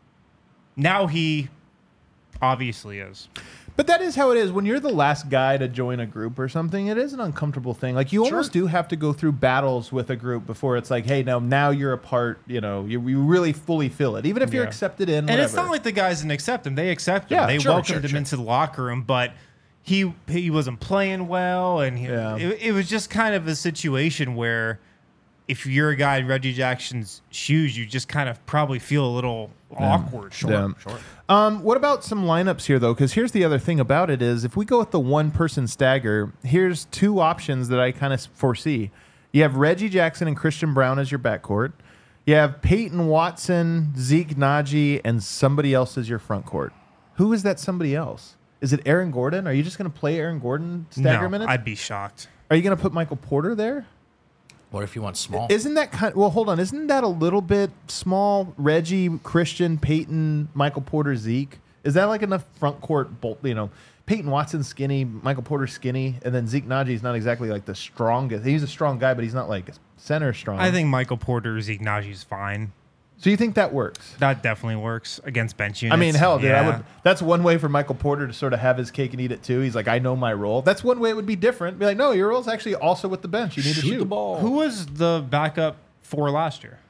Now he obviously is. But that is how it is. When you're the last guy to join a group or something, it is an uncomfortable thing. Like you almost do have to go through battles with a group before it's like, hey, now now you're a part. You know, you, you really fully feel it, even if you're Yeah. accepted in. And Whatever. it's not like the guys didn't accept him. They accepted Yeah, him. They sure, welcomed sure, him sure. into the locker room, but he he wasn't playing well, and he, Yeah. it, it was just kind of a situation where if you're a guy in Reggie Jackson's shoes, you just kind of probably feel a little awkward. Yeah. Um, what about some lineups here, though? Because here's the other thing about it is if we go with the one-person stagger, here's two options that I kind of foresee. You have Reggie Jackson and Christian Brown as your backcourt. You have Peyton Watson, Zeke Naji, and somebody else as your front court. Who is that somebody else? Is it Aaron Gordon? Are you just going to play Aaron Gordon stagger No, minutes? I'd be shocked. Are you going to put Michael Porter there? What if you want small? Isn't that kind? Well, hold on. Isn't that a little bit small? Reggie, Christian, Peyton, Michael Porter, Zeke. Is that like enough front court? Bolt, you know, Peyton Watson skinny, Michael Porter skinny, and then Zeke Naji is not exactly like the strongest. He's a strong guy, but he's not like center strong. I think Michael Porter, Zeke Naji's fine. So you think that works? That definitely works against bench units. I mean, hell, dude, I Yeah. would. That's one way for Michael Porter to sort of have his cake and eat it too. He's like, I know my role. That's one way it would be different. Be like, no, your role's actually also with the bench. You need to Shoot shoot the ball. Who was the backup for last year?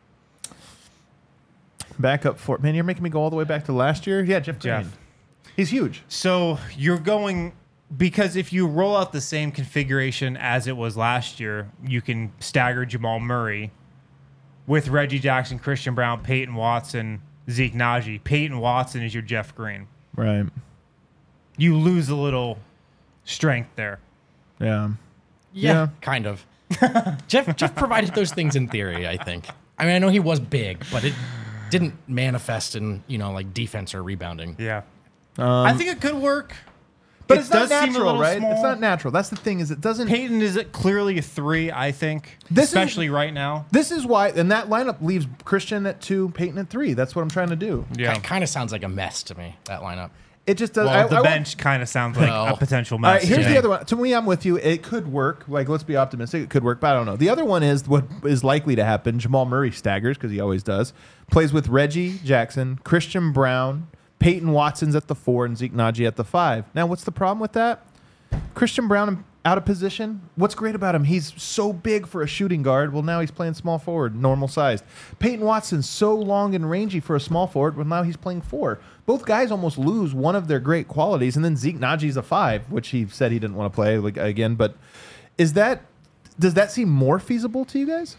Back up for man. You're making me go all the way back to last year. Yeah, Jeff Green. Jeff. He's huge. So you're going because if you roll out the same configuration as it was last year, you can stagger Jamal Murray with Reggie Jackson, Christian Brown, Peyton Watson, Zeke Naji. Peyton Watson is your Jeff Green. Right. You lose a little strength there. Yeah. yeah, yeah. kind of. Jeff Jeff provided those things in theory. I think. I mean, I know he was big, but it didn't manifest in you know like defense or rebounding. Yeah. Um, I think it could work. But It it's not does seem a natural, little right? small. It's not natural. That's the thing. Is it doesn't. Peyton is clearly a three, I think, This is- especially right now. This is why, and that lineup leaves Christian at two, Peyton at three. That's what I'm trying to do. Yeah. It kind of sounds like a mess to me, that lineup. It just does. Well, I, the I won't- bench kind of sounds like No. a potential All mess. right, here's to me. the other one. To me, I'm with you. It could work. Like, let's be optimistic. It could work, but I don't know. The other one is what is likely to happen. Jamal Murray staggers because he always does. Plays with Reggie Jackson, Christian Brown, Peyton Watson's at the four, and Zeke Naji at the five. Now, what's the problem with that? Christian Brown out of position. What's great about him? He's so big for a shooting guard. Well, now he's playing small forward, normal sized. Peyton Watson's so long and rangy for a small forward. Well, now he's playing four. Both guys almost lose one of their great qualities, and then Zeke Naji's a five, which he said he didn't want to play like, again. But is that does that seem more feasible to you guys?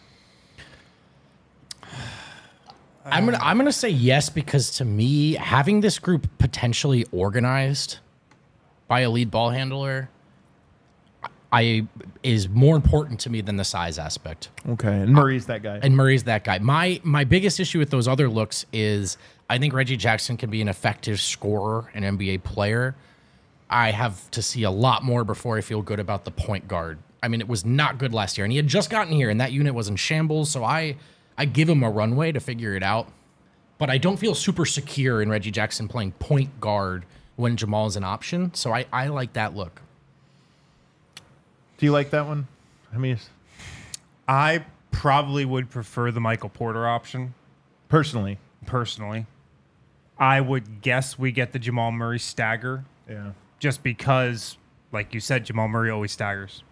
I'm gonna I'm gonna say yes because to me, having this group potentially organized by a lead ball handler, I is more important to me than the size aspect. Okay, and Murray's that guy. And Murray's that guy. My my biggest issue with those other looks is I think Reggie Jackson can be an effective scorer, an N B A player. I have to see a lot more before I feel good about the point guard. I mean, it was not good last year, and he had just gotten here, and that unit was in shambles. So I I give him a runway to figure it out, but I don't feel super secure in Reggie Jackson playing point guard when Jamal is an option. So I I like that look. Do you like that one? I mean, it's- I probably would prefer the Michael Porter option, personally, personally. I would guess we get the Jamal Murray stagger yeah. just because, like you said, Jamal Murray always staggers.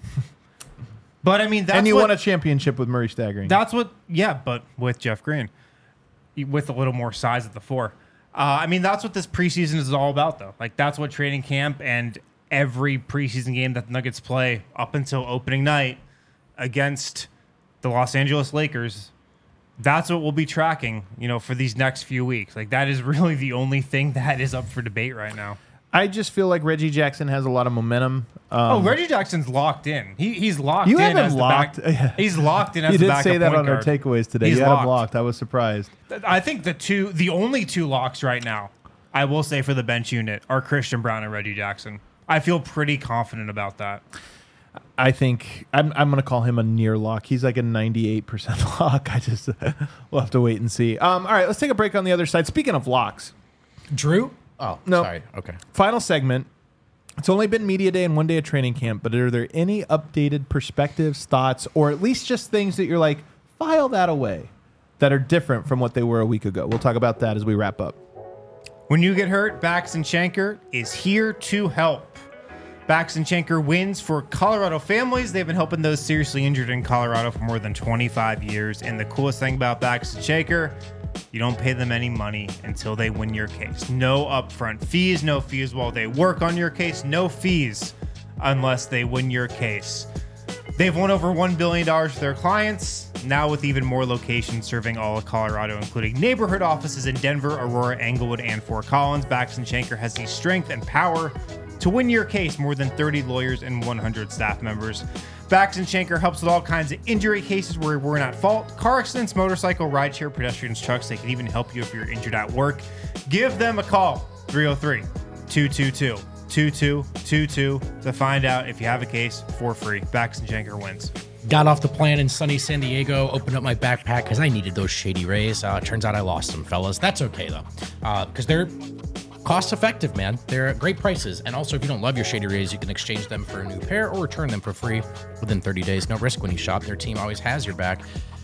But, I mean, that's And you what, won a championship with Murray staggering. That's what, yeah, but with Jeff Green, with a little more size at the four. Uh, I mean, that's what this preseason is all about, though. Like, that's what training camp and every preseason game that the Nuggets play up until opening night against the Los Angeles Lakers, that's what we'll be tracking, you know, for these next few weeks. Like, that is really the only thing that is up for debate right now. I just feel like Reggie Jackson has a lot of momentum. Um, Oh, Reggie Jackson's locked in. He he's locked You in have him as locked. the back. He's locked in as you the did backup say that point on our guard. takeaways today. He's you had him locked. locked. I was surprised. I think the two, the only two locks right now, I will say for the bench unit, are Christian Brown and Reggie Jackson. I feel pretty confident about that. I think I'm, I'm going to call him a near lock. He's like a ninety-eight percent lock. I just we'll have to wait and see. Um, all right, let's take a break on the other side. Speaking of locks, Drew? Oh, No. sorry. Okay. final segment. It's only been media day and one day of training camp, but are there any updated perspectives, thoughts, or at least just things that you're like, file that away, that are different from what they were a week ago? We'll talk about that as we wrap up. When you get hurt, Bax and Schenker is here to help. Bax and Schenker wins for Colorado families. They've been helping those seriously injured in Colorado for more than twenty-five years. And the coolest thing about Bax and Schenker, you don't pay them any money until they win your case. No upfront fees, no fees while they work on your case, no fees unless they win your case. They've won over one billion dollars for their clients, now with even more locations serving all of Colorado, including neighborhood offices in Denver, Aurora, Englewood, and Fort Collins. Bax and Schenker has the strength and power to win your case. More than thirty lawyers and one hundred staff members. Bax and Schenker helps with all kinds of injury cases where we're not at fault. Car accidents, motorcycle, rideshare, pedestrians, trucks. They can even help you if you're injured at work. Give them a call, three oh three, two two two, two two two two, to find out if you have a case for free. Bax and Schenker wins. Got off the plane in sunny San Diego, opened up my backpack because I needed those Shady Rays. Uh, turns out I lost them, fellas. That's okay, though, because they're cost effective, man. They're at great prices. And also, if you don't love your Shady Rays, you can exchange them for a new pair or return them for free within thirty days. No risk when you shop. Their team always has your back.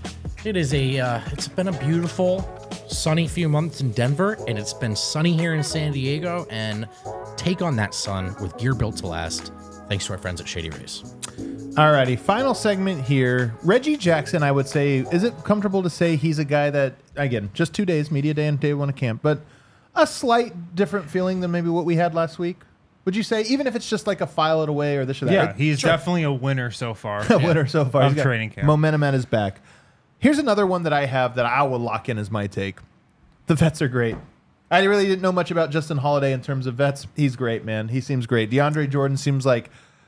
It is a, uh, it's been a beautiful, sunny few months in Denver, and it's been sunny here in San Diego. And take on that sun with gear built to last. Thanks to our friends at Shady Rays. Alrighty, final segment here. Reggie Jackson, I would say, is it comfortable to say he's a guy that, again, just two days, media day and day one of camp, but a slight different feeling than maybe what we had last week? Would you say, even if it's just like a file it away or this or that? Yeah, Like, he's sure, definitely a winner so far. a winner so far. Of He's got training camp. Momentum at his back. Here's another one that I have that I will lock in as my take. The vets are great. I really didn't know much about Justin Holiday in terms of vets. He's great, man. He seems great. DeAndre Jordan seems like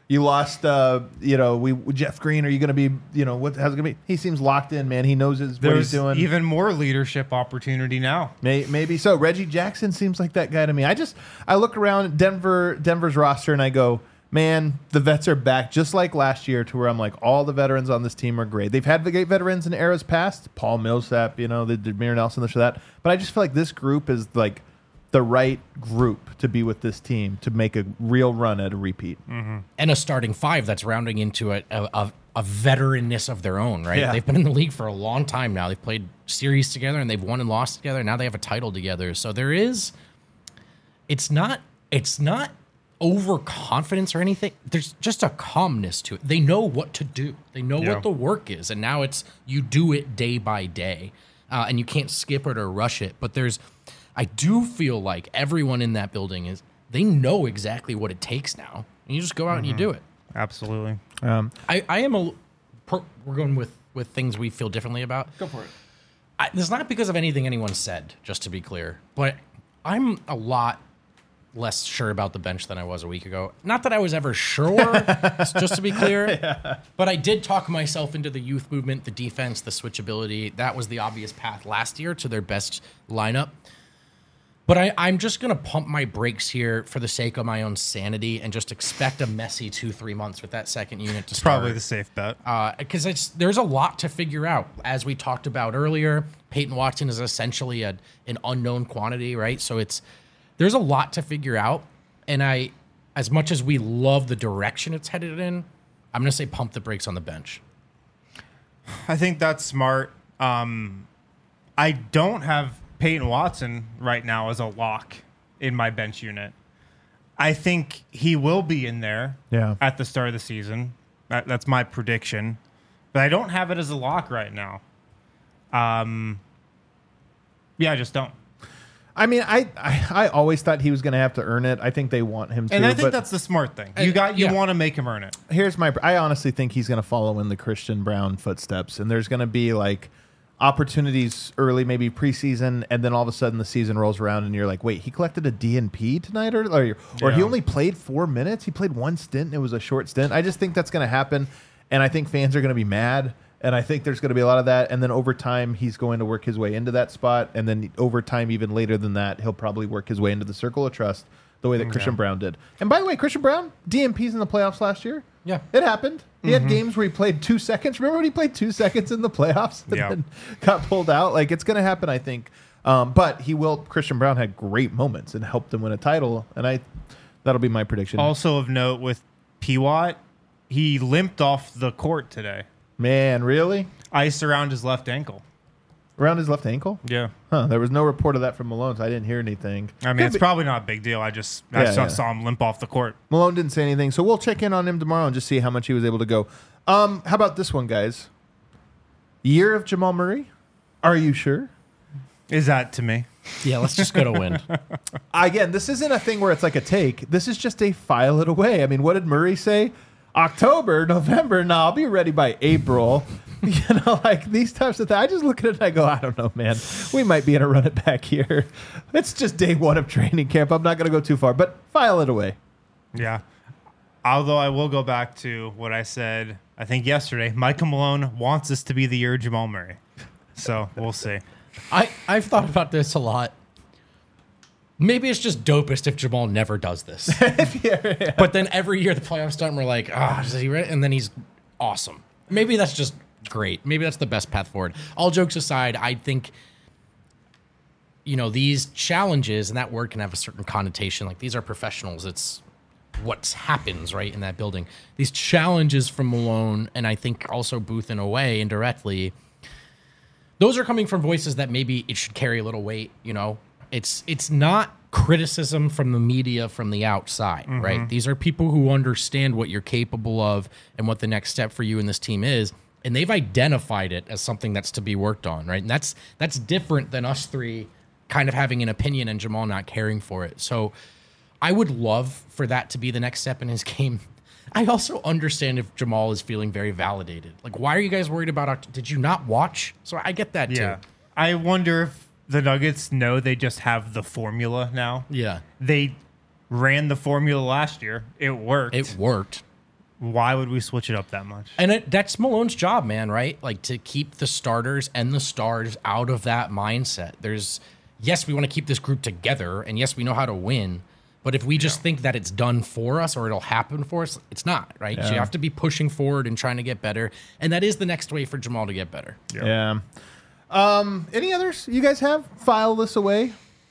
You lost, uh, you know, we Jeff Green. Are you going to be, you know, what? How's it going to be? He seems locked in, man. He knows his, what he's There's doing. even more leadership opportunity now. May, maybe so. Reggie Jackson seems like that guy to me. I just I look around Denver Denver's roster and I go, man, the vets are back just like last year. To where I'm like, all the veterans on this team are great. They've had the great veterans in eras past. Paul Millsap, you know, they did Demir Nelson, this or that. But I just feel like this group is like the right group to be with this team to make a real run at a repeat. Mm-hmm. And a starting five that's rounding into a a, a, a veteranness of their own, right? Yeah. They've been in the league for a long time now. They've played series together and they've won and lost together. Now they have a title together. So there is, it's not, it's not overconfidence or anything. There's just a calmness to it. They know what to do. They know Yeah. what the work is. And now it's, you do it day by day. Uh, and you can't skip it or rush it. But there's, I do feel like everyone in that building is, they know exactly what it takes now. And you just go out and you do it. Absolutely. Um, I, I am a, per, we're going with, with things we feel differently about. go for it. I, it's not because of anything anyone said, just to be clear, but I'm a lot less sure about the bench than I was a week ago. Not that I was ever sure, just to be clear, yeah. But I did talk myself into the youth movement, the defense, the switchability. That was the obvious path last year to their best lineup. But I, I'm just going to pump my brakes here for the sake of my own sanity and just expect a messy two, three months with that second unit to start. Probably the safe bet. Because uh, it's there's a lot to figure out. As we talked about earlier, Peyton Watson is essentially a, an unknown quantity, right? So it's there's a lot to figure out. And I, as much as we love the direction it's headed in, I'm going to say pump the brakes on the bench. I think that's smart. Um, I don't have Peyton Watson right now as a lock in my bench unit. I think he will be in there Yeah. at the start of the season. That, that's my prediction. But I don't have it as a lock right now. Um, yeah, I just don't. I mean, I, I I always thought he was going to have to earn it. I think they want him to. And I think but that's the smart thing. You got you yeah. want to make him earn it. here's my. I honestly think he's going to follow in the Christian Brown footsteps, and there's going to be like opportunities early, maybe preseason, and then all of a sudden the season rolls around, and you're like, wait, he collected a D N P tonight, or or, or he Yeah. only played four minutes. He played one stint. And it was a short stint. I just think that's going to happen, and I think fans are going to be mad. And I think there's going to be a lot of that. And then over time, he's going to work his way into that spot. And then over time, even later than that, he'll probably work his way into the circle of trust the way that Christian Brown did. And by the way, Christian Brown, D M Ps in the playoffs last year. Yeah. It happened. He had games where he played two seconds. Remember when he played two seconds in the playoffs and Yeah. then got pulled out? Like, it's going to happen, I think. Um, but he will. Christian Brown had great moments and helped him win a title. And I that'll be my prediction. Also of note with P. Watt, he limped off the court today. Man, really? Ice around his left ankle. Around his left ankle? Yeah. Huh. There was no report of that from Malone, so I didn't hear anything. I mean, Could it's be- probably not a big deal. I just I Yeah, saw, yeah. saw him limp off the court. Malone didn't say anything, so we'll check in on him tomorrow and just see how much he was able to go. Um, how about this one, guys? Year of Jamal Murray? Are you sure? Is that to me? Yeah, let's just go to win. Again, this isn't a thing where it's like a take. This is just a file it away. I mean, what did Murray say? October, November, no, I'll be ready by April. You know, like these types of things. I just look at it and I go, I don't know, man. We might be in a run it back here. It's just day one of training camp. I'm not going to go too far, but file it away. Yeah. Although I will go back to what I said, I think yesterday. Michael Malone wants this to be the year of Jamal Murray. So we'll see. I, I've thought about this a lot. Maybe it's just dopest if Jamal never does this. But then every year the playoffs start and we're like, ah, is he ready? And then he's awesome. Maybe that's just great. Maybe that's the best path forward. All jokes aside, I think, you know, these challenges and that word can have a certain connotation. Like these are professionals. It's what happens right in that building. These challenges from Malone and I think also Booth in a way indirectly, those are coming from voices that maybe it should carry a little weight, you know. It's it's not criticism from the media from the outside, mm-hmm. right? These are people who understand what you're capable of and what the next step for you and this team is, and they've identified it as something that's to be worked on, right? And that's that's different than us three kind of having an opinion and Jamal not caring for it. So I would love for that to be the next step in his game. I also understand if Jamal is feeling very validated. Like, why are you guys worried about Oct- Did you not watch? So I get that Yeah. too. I wonder if the Nuggets know they just have the formula now. Yeah. They ran the formula last year. It worked. It worked. Why would we switch it up that much? And it, that's Malone's job, man, right? Like to keep the starters and the stars out of that mindset. There's, yes, we want to keep this group together, and yes, we know how to win. But if we just yeah. think that it's done for us or it'll happen for us, it's not, right? Yeah. So you have to be pushing forward and trying to get better. And that is the next way for Jamal to get better. Yeah. yeah. Um, any others you guys have? File this away.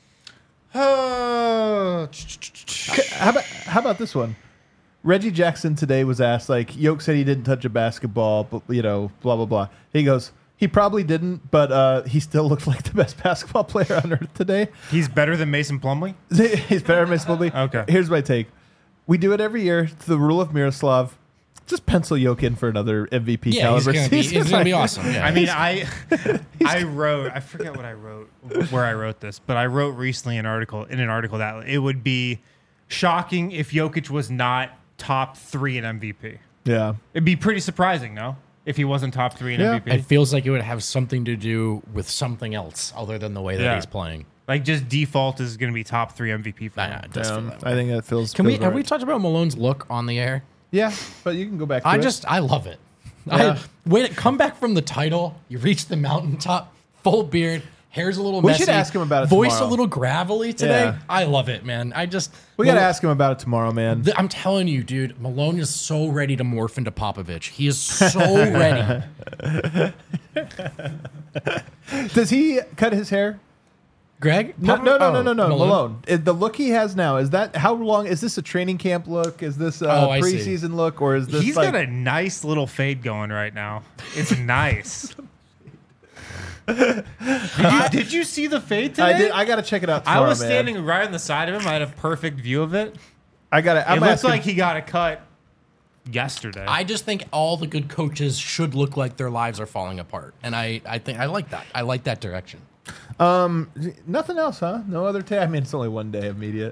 Uh, how about how about this one? Reggie Jackson today was asked, like, Yoke said he didn't touch a basketball, but, you know, blah, blah, blah. He goes, he probably didn't, but uh, he still looked like the best basketball player on earth today. He's better than Mason Plumlee? He's better than Mason Plumlee? Okay. Here's my take. We do it every year. It's the rule of Miroslav. Just pencil Yoke in for another M V P yeah, caliber he's gonna season. Be, he's going to be awesome. Yeah. I mean, I I wrote, I forget what I wrote, where I wrote this, but I wrote recently an article, in an article that it would be shocking if Jokic was not top three in M V P. Yeah. It'd be pretty surprising, no? If he wasn't top three in yeah. M V P. It feels like it would have something to do with something else other than the way that yeah. he's playing. Like just default is going to be top three M V P for Nah, him. nah, it does Yeah, feel that way. I think that feels. Can feels we have right. we talked about Malone's look on the air? Yeah, but you can go back to I it. just I love it. Yeah. I when it come back from the title, you reach the mountaintop, full beard, hair's a little We messy. should ask him about it Voice tomorrow. a little gravelly today. Yeah. I love it, man. I just We got to Mal- ask him about it tomorrow, man. th- I'm telling you, dude, Malone is so ready to morph into Popovich. He is so ready. Does he cut his hair? Greg? No, no, no, no, no, no. Malone? Malone. Is the look he has now, is that how long? Is this a training camp look? Is this a Oh, I see. preseason look? Or is this He's like, got a nice little fade going right now. It's nice. did, you, did you see the fade today? I did. I got to check it out tomorrow, I was man. standing right on the side of him. I had a perfect view of it. I got to. It looks like he got a cut yesterday. I just think all the good coaches should look like their lives are falling apart. And I, I think I like that. I like that direction. Um, nothing else, huh? No other tab. I mean, it's only one day of media.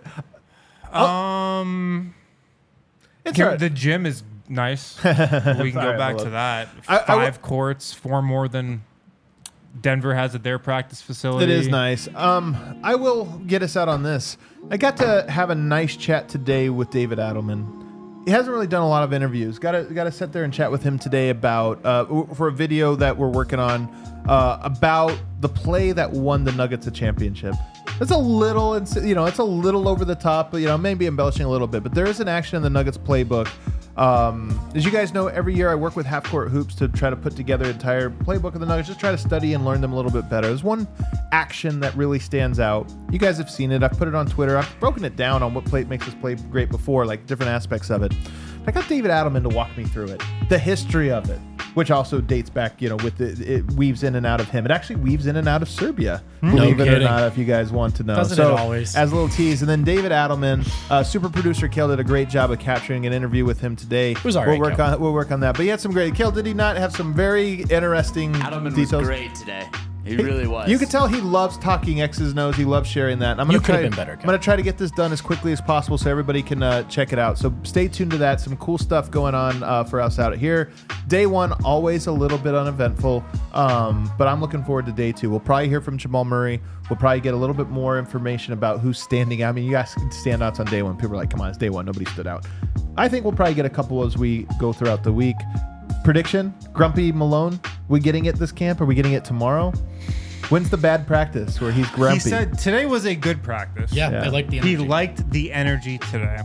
um, It's Kim- all right. the gym is nice. We can go right, back Malone. to that. I- I Five will- courts, four more than Denver has at their practice facility. It is nice. Um, I will get us out on this. I got to have a nice chat today with David Adelman. He hasn't really done a lot of interviews. Got to got to sit there and chat with him today about uh, for a video that we're working on uh, about the play that won the Nuggets a championship. It's a little, it's, you know, it's a little over the top, but you know, maybe embellishing a little bit. But there is an action in the Nuggets playbook. Um, as you guys know, every year I work with Half Court Hoops to try to put together an entire playbook of the Nuggets, just try to study and learn them a little bit better. There's one action that really stands out. You guys have seen it. I've put it on Twitter. I've broken it down on what play makes this play great before, like different aspects of it. I got David Adelman to walk me through it, the history of it, which also dates back, you know, with the, it weaves in and out of him. It actually weaves in and out of Serbia, believe it or kidding. not, if you guys want to know. Doesn't so, it always? as a little tease, and then David Adelman, uh, super producer Kale did a great job of capturing an interview with him today. It was all we'll right, work Kale. on we'll work on that. But he had some great. Kale, did he not have some very interesting Adelman details? was great today. He really was. You could tell he loves talking X's and O's. He loves sharing that. And I'm gonna You could try, have been better, I'm Kyle. going to try to get this done as quickly as possible so everybody can uh, check it out. So stay tuned to that. Some cool stuff going on uh, for us out here. Day one, always a little bit uneventful, um, but I'm looking forward to day two. We'll probably hear from Jamal Murray. We'll probably get a little bit more information about who's standing out. I mean, you guys can stand outs on day one. People are like, come on, it's day one. Nobody stood out. I think we'll probably get a couple as we go throughout the week. Prediction, Grumpy Malone, we getting it this camp? Are we getting it tomorrow? When's the bad practice where he's grumpy? He said today was a good practice. Yeah, Yeah. I like the He energy. liked the energy today.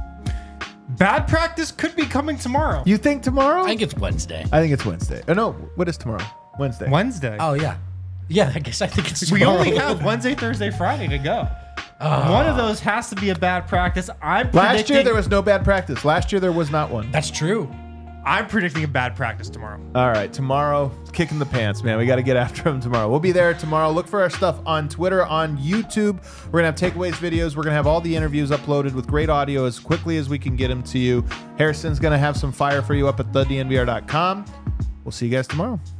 Bad practice could be coming tomorrow. You think tomorrow? I think it's Wednesday. I think it's Wednesday. Oh no, what is tomorrow? Wednesday. Wednesday. Oh, yeah. Yeah, I guess I think it's we tomorrow. only have Wednesday, Thursday, Friday to go. One of those has to be a bad practice. I'm Last predicting, year there was no bad practice. Last year there was not one. That's true. I'm predicting a bad practice tomorrow. All right, tomorrow, kicking the pants, man. We got to get after him tomorrow. We'll be there tomorrow. Look for our stuff on Twitter, on YouTube. We're going to have takeaways videos. We're going to have all the interviews uploaded with great audio as quickly as we can get them to you. Harrison's going to have some fire for you up at the D N V R dot com. We'll see you guys tomorrow.